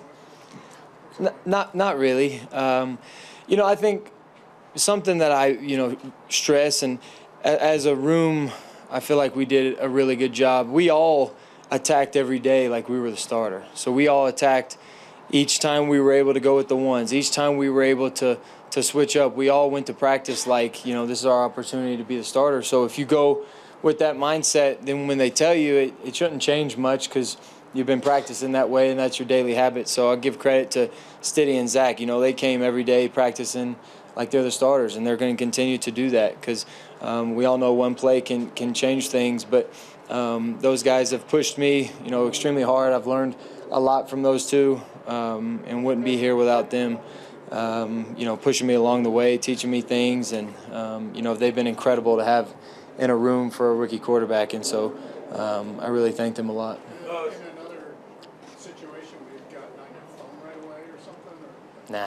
what? N- not, not really. Um, you know, I think something that I, you know, stress, and a- as a room, I feel like we did a really good job. We all attacked every day like we were the starter. So we all attacked each time we were able to go with the ones. Each time we were able to to switch up, we all went to practice like, you know, this is our opportunity to be the starter. So if you go with that mindset, then when they tell you, it, it shouldn't change much, because you've been practicing that way and that's your daily habit. So I'll give credit to Stiddy and Zach. You know, they came every day practicing like they're the starters, and they're going to continue to do that, because um, we all know one play can can change things. But um, those guys have pushed me, you know, extremely hard. I've learned a lot from those two, um, and wouldn't be here without them, um, you know, pushing me along the way, teaching me things. And, um, you know, they've been incredible to have in a room for a rookie quarterback. And so um, I really thank them a lot. In another situation, we've gotten on your phone right away or something? Or? Nah.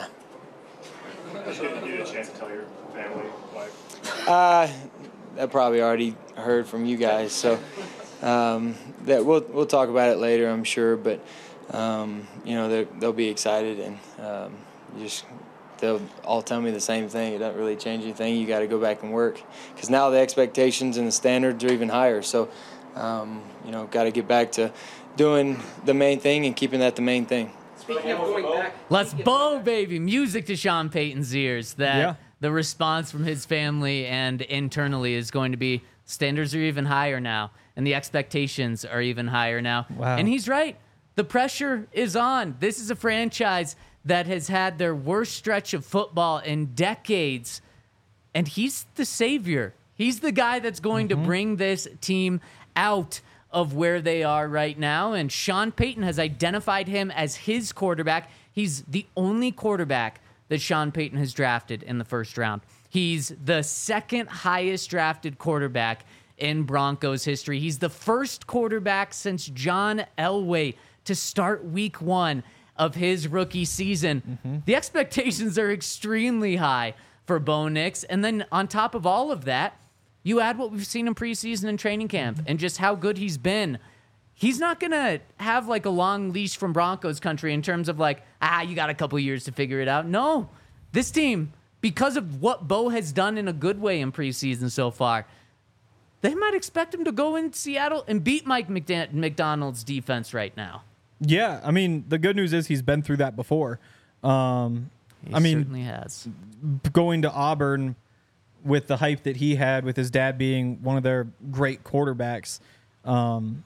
Did you get a chance to tell your family, wife? Uh, I probably already heard from you guys, so um, that we'll we'll talk about it later, I'm sure. But um, you know, they'll be excited, and um, just they'll all tell me the same thing. It doesn't really change anything. You got to go back and work, because now the expectations and the standards are even higher. So um, you know, got to get back to doing the main thing and keeping that the main thing. Speaking of going back, Let's bow, baby. Music to Sean Payton's ears. That Yeah. the response from his family and internally is going to be, standards are even higher now, and the expectations are even higher now. Wow. And he's right. The pressure is on. This is a franchise that has had their worst stretch of football in decades, and he's the savior. He's the guy that's going Mm-hmm. to bring this team out of where they are right now, and Sean Payton has identified him as his quarterback. He's the only quarterback that Sean Payton has drafted in the first round. He's the second highest drafted quarterback in Broncos history. He's the first quarterback since John Elway to start week one of his rookie season. Mm-hmm. The expectations are extremely high for Bo Nix. And then on top of all of that, you add what we've seen in preseason and training camp and just how good he's been. He's not going to have like a long leash from Broncos country in terms of like, ah, you got a couple years to figure it out. No, this team, because of what Bo has done in a good way in preseason so far, they might expect him to go in Seattle and beat Mike McDan- McDonald's defense right now. Yeah, I mean, the good news is he's been through that before. Um, He I mean, certainly has. going to Auburn with the hype that he had with his dad being one of their great quarterbacks, um,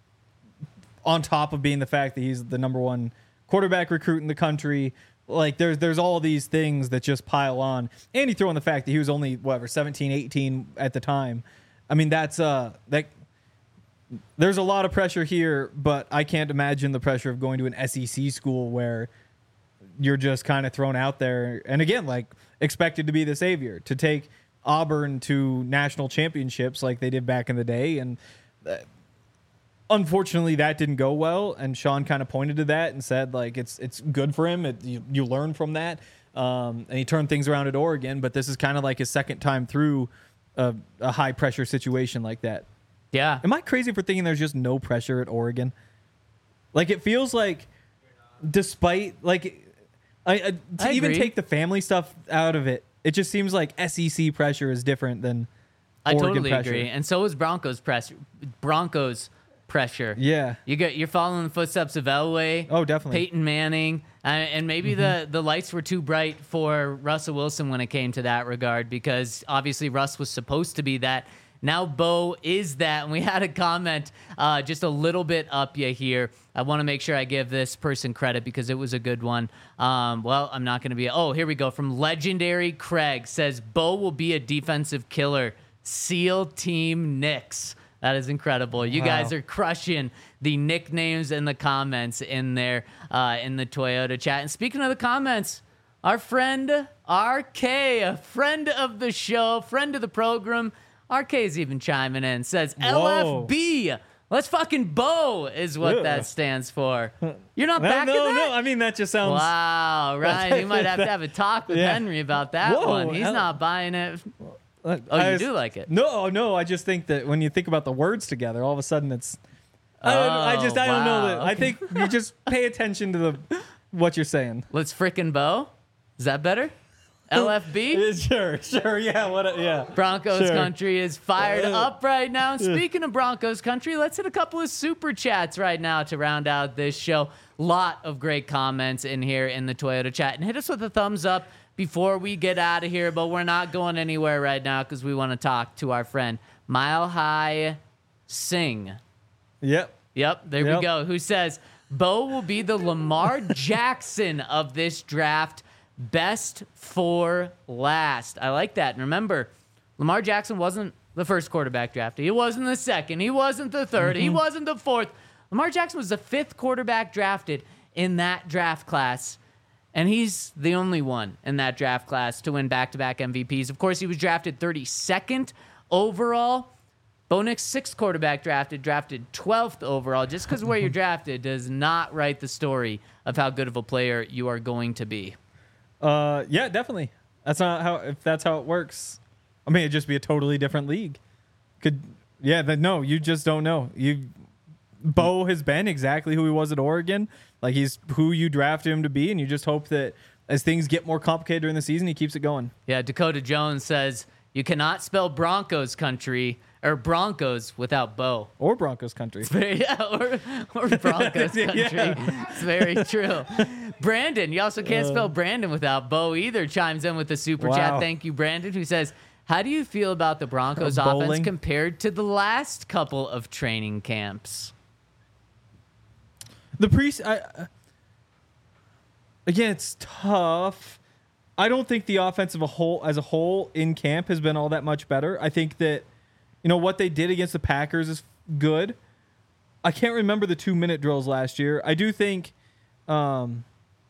on top of being the fact that he's the number one quarterback recruit in the country, like there's there's all these things that just pile on. And you throw in the fact that he was only whatever seventeen, eighteen at the time. I mean, that's uh that there's a lot of pressure here, but I can't imagine the pressure of going to an S E C school where you're just kind of thrown out there. And again, like expected to be the savior, to take Auburn to national championships like they did back in the day. And uh, unfortunately that didn't go well. And Sean kind of pointed to that and said like, it's, it's good for him. It, you, you learn from that. Um, and he turned things around at Oregon, but this is kind of like his second time through a, a high pressure situation like that. Yeah. Am I crazy for thinking there's just no pressure at Oregon? Like it feels like, despite like, I, I to I even agree. take the family stuff out of it, it just seems like S E C pressure is different than I Oregon totally pressure. agree. And so is Broncos pressure. Broncos pressure. Yeah. You get you're following the footsteps of Elway. Oh, definitely. Peyton Manning, uh, and maybe Mm-hmm. the the lights were too bright for Russell Wilson when it came to that regard, because obviously Russ was supposed to be that. Now Bo is that, and we had a comment uh, just a little bit up you here. I want to make sure I give this person credit because it was a good one. Um, well, I'm not going to be. Oh, here we go. From Legendary Craig says Bo will be a defensive killer. SEAL Team Knicks. That is incredible. You Wow. guys are crushing the nicknames and the comments in there uh, in the Toyota chat. And speaking of the comments, our friend R K, a friend of the show, friend of the program, R K's even chiming in, says L F B. Let's fucking Bo is what Ugh. that stands for. You're not No, back no, in that? no. I mean, that just sounds. Wow, Ryan, you might have to have a talk with Yeah. Henry about that Whoa, one. He's L- not buying it. Oh, Oh, you do like it? No, no. I just think that when you think about the words together, all of a sudden it's. I, don't, I Oh, just I don't know wow. that. I think you just pay attention to the what you're saying. Let's frickin' Bo. Is that better? L F B? Sure, sure, yeah, what, yeah. Broncos Sure. country is fired Uh, up right now. Speaking of Broncos country, let's hit a couple of super chats right now to round out this show. Lot of great comments in here in the Toyota chat. And hit us with a thumbs up before we get out of here, but we're not going anywhere right now because we want to talk to our friend Mile High Singh. Yep. Yep, there Yep. we go. Who says Bo will be the Lamar Jackson of this draft. Best for last. I like that. And remember, Lamar Jackson wasn't the first quarterback drafted. He wasn't the second. He wasn't the third. He wasn't the fourth. Lamar Jackson was the fifth quarterback drafted in that draft class. And he's the only one in that draft class to win back-to-back M V Ps. Of course, he was drafted thirty-second overall. Bo Nix, sixth quarterback drafted, drafted twelfth overall. Just because where you're drafted does not write the story of how good of a player you are going to be. Uh, yeah, definitely. That's not how. If that's how it works, I mean, it'd just be a totally different league. Could yeah? Then no, you just don't know. You Bo has been exactly who he was at Oregon. Like he's who you drafted him to be, and you just hope that as things get more complicated during the season, he keeps it going. Yeah, Dakota Jones says you cannot spell Broncos country or Broncos without Bo. Or Broncos country. Yeah, or, or Broncos country. Yeah. It's very true. Brandon, you also can't Uh, spell Brandon without Bo either, chimes in with the super Wow. chat. Thank you, Brandon, who says, how do you feel about the Broncos Uh, offense bowling. compared to the last couple of training camps? The pre I, uh, again, it's tough. I don't think the offense of a whole as a whole in camp has been all that much better. I think that you know what they did against the Packers is good. I can't remember the two minute drills last year. I do think, um,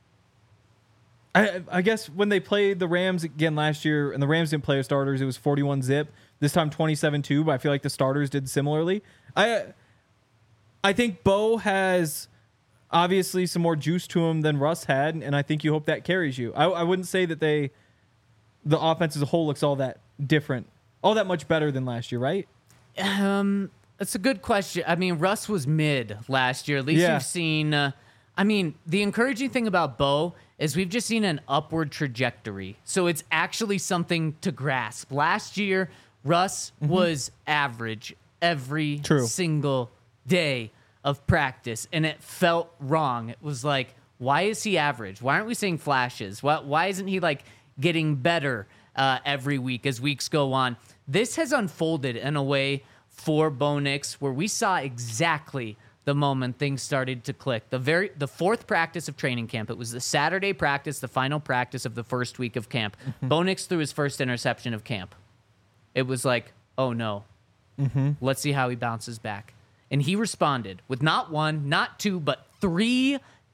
I I guess when they played the Rams again last year, and the Rams didn't play their starters, it was forty-one zip. This time twenty-seven two, but I feel like the starters did similarly. I I think Bo has obviously some more juice to him than Russ had, and I think you hope that carries you. I, I wouldn't say that they, the offense as a whole looks all that different, all that much better than last year, right? Um, that's a good question. I mean, Russ was mid last year. At least Yeah. you've seen. Uh, I mean, the encouraging thing about Bo is we've just seen an upward trajectory. So it's actually something to grasp. Last year, Russ was average every True. single day of practice, and it felt wrong. It was like, why is he average? Why aren't we seeing flashes? Why, why isn't he like getting better uh, every week as weeks go on? This has unfolded in a way for Bo Nix where we saw exactly the moment things started to click. The very the fourth practice of training camp. It was the Saturday practice, the final practice of the first week of camp. Bo Nix threw his first interception of camp. It was like, oh no. Mm-hmm. Let's see how he bounces back. And he responded with not one, not two, but three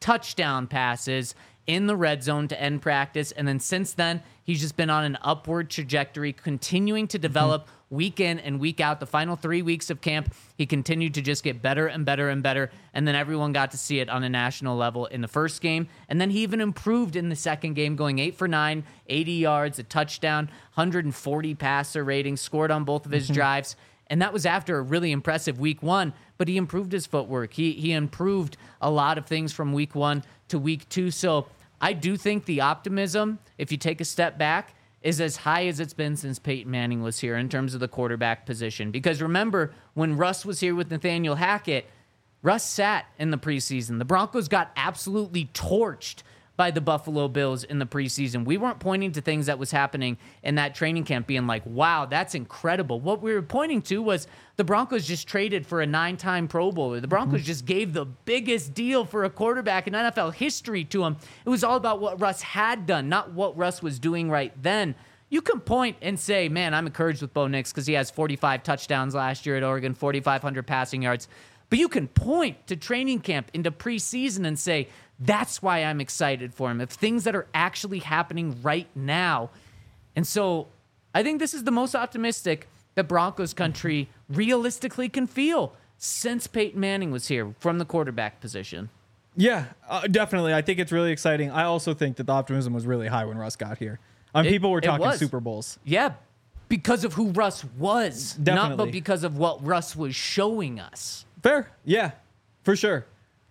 touchdown passes in the red zone to end practice. And then since then, he's just been on an upward trajectory, continuing to develop mm-hmm. week in and week out. The final three weeks of camp, he continued to just get better and better and better. And then everyone got to see it on a national level in the first game. And then he even improved in the second game, going eight for nine, eighty yards, a touchdown, one hundred forty passer rating, scored on both of his mm-hmm. drives. And that was after a really impressive week one, but he improved his footwork. He he improved a lot of things from week one to week two. So I do think the optimism, if you take a step back, is as high as it's been since Peyton Manning was here in terms of the quarterback position. Because remember, when Russ was here with Nathaniel Hackett, Russ sat in the preseason. The Broncos got absolutely torched by the Buffalo Bills in the preseason. We weren't pointing to things that was happening in that training camp being like, wow, that's incredible. What we were pointing to was the Broncos just traded for a nine-time Pro Bowler. The Broncos mm-hmm. just gave the biggest deal for a quarterback in N F L history to him. It was all about what Russ had done, not what Russ was doing right then. You can point and say, man, I'm encouraged with Bo Nix because he has forty-five touchdowns last year at Oregon, forty-five hundred passing yards. But you can point to training camp into preseason and say, that's why I'm excited for him, of things that are actually happening right now. And so I think this is the most optimistic that Broncos country realistically can feel since Peyton Manning was here from the quarterback position. Yeah, uh, definitely. I think it's really exciting. I also think that the optimism was really high when Russ got here. I mean, it, people were talking Super Bowls. Yeah, because of who Russ was, definitely. Not but because of what Russ was showing us. Fair. Yeah, for sure.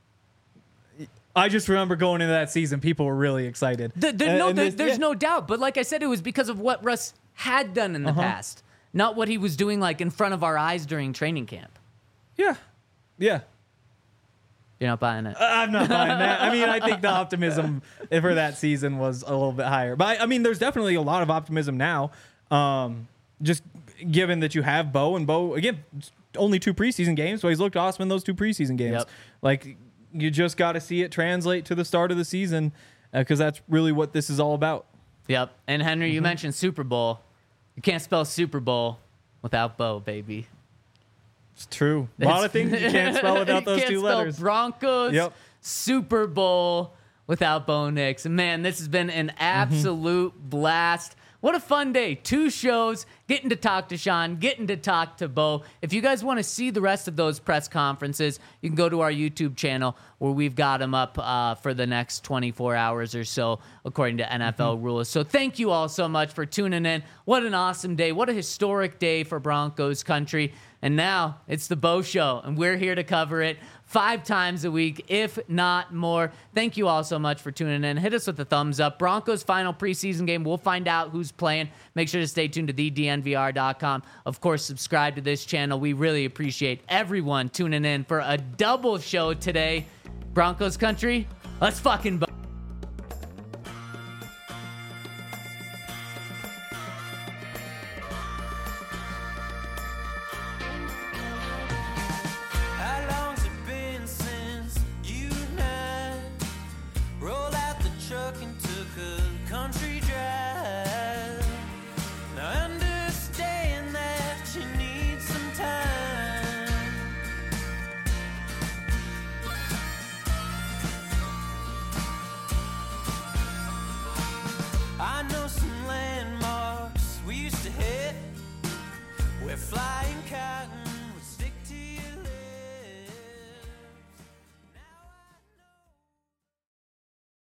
I just remember going into that season, people were really excited. The, the, and, no, and the, this, there's yeah. no doubt. But like I said, it was because of what Russ had done in the uh-huh. past, not what he was doing like in front of our eyes during training camp. Yeah. Yeah. You're not buying it. I'm not buying that. I mean, I think the optimism for that season was a little bit higher. But, I, I mean, there's definitely a lot of optimism now, um, just given that you have Bo. And Bo, again, only two preseason games, so he's looked awesome in those two preseason games. Yep. Like, you just got to see it translate to the start of the season because uh, that's really what this is all about. Yep. And Henry, Mm-hmm. you mentioned Super Bowl. You can't spell Super Bowl without Bo, baby. It's true. A lot of things you can't spell without those you can't two spell letters. Broncos, Yep. Super Bowl without Bo Nix. And man, this has been an absolute mm-hmm. blast. What a fun day. Two shows, getting to talk to Sean, getting to talk to Bo. If you guys want to see the rest of those press conferences, you can go to our YouTube channel where we've got them up uh, for the next twenty-four hours or so, according to N F L mm-hmm. rules. So thank you all so much for tuning in. What an awesome day. What a historic day for Broncos country. And now it's the Bo Show, and we're here to cover it five times a week, if not more. Thank you all so much for tuning in. Hit us with a thumbs up. Broncos' final preseason game. We'll find out who's playing. Make sure to stay tuned to the D N V R dot com. Of course, subscribe to this channel. We really appreciate everyone tuning in for a double show today. Broncos country, let's fucking Bo. Flying cotton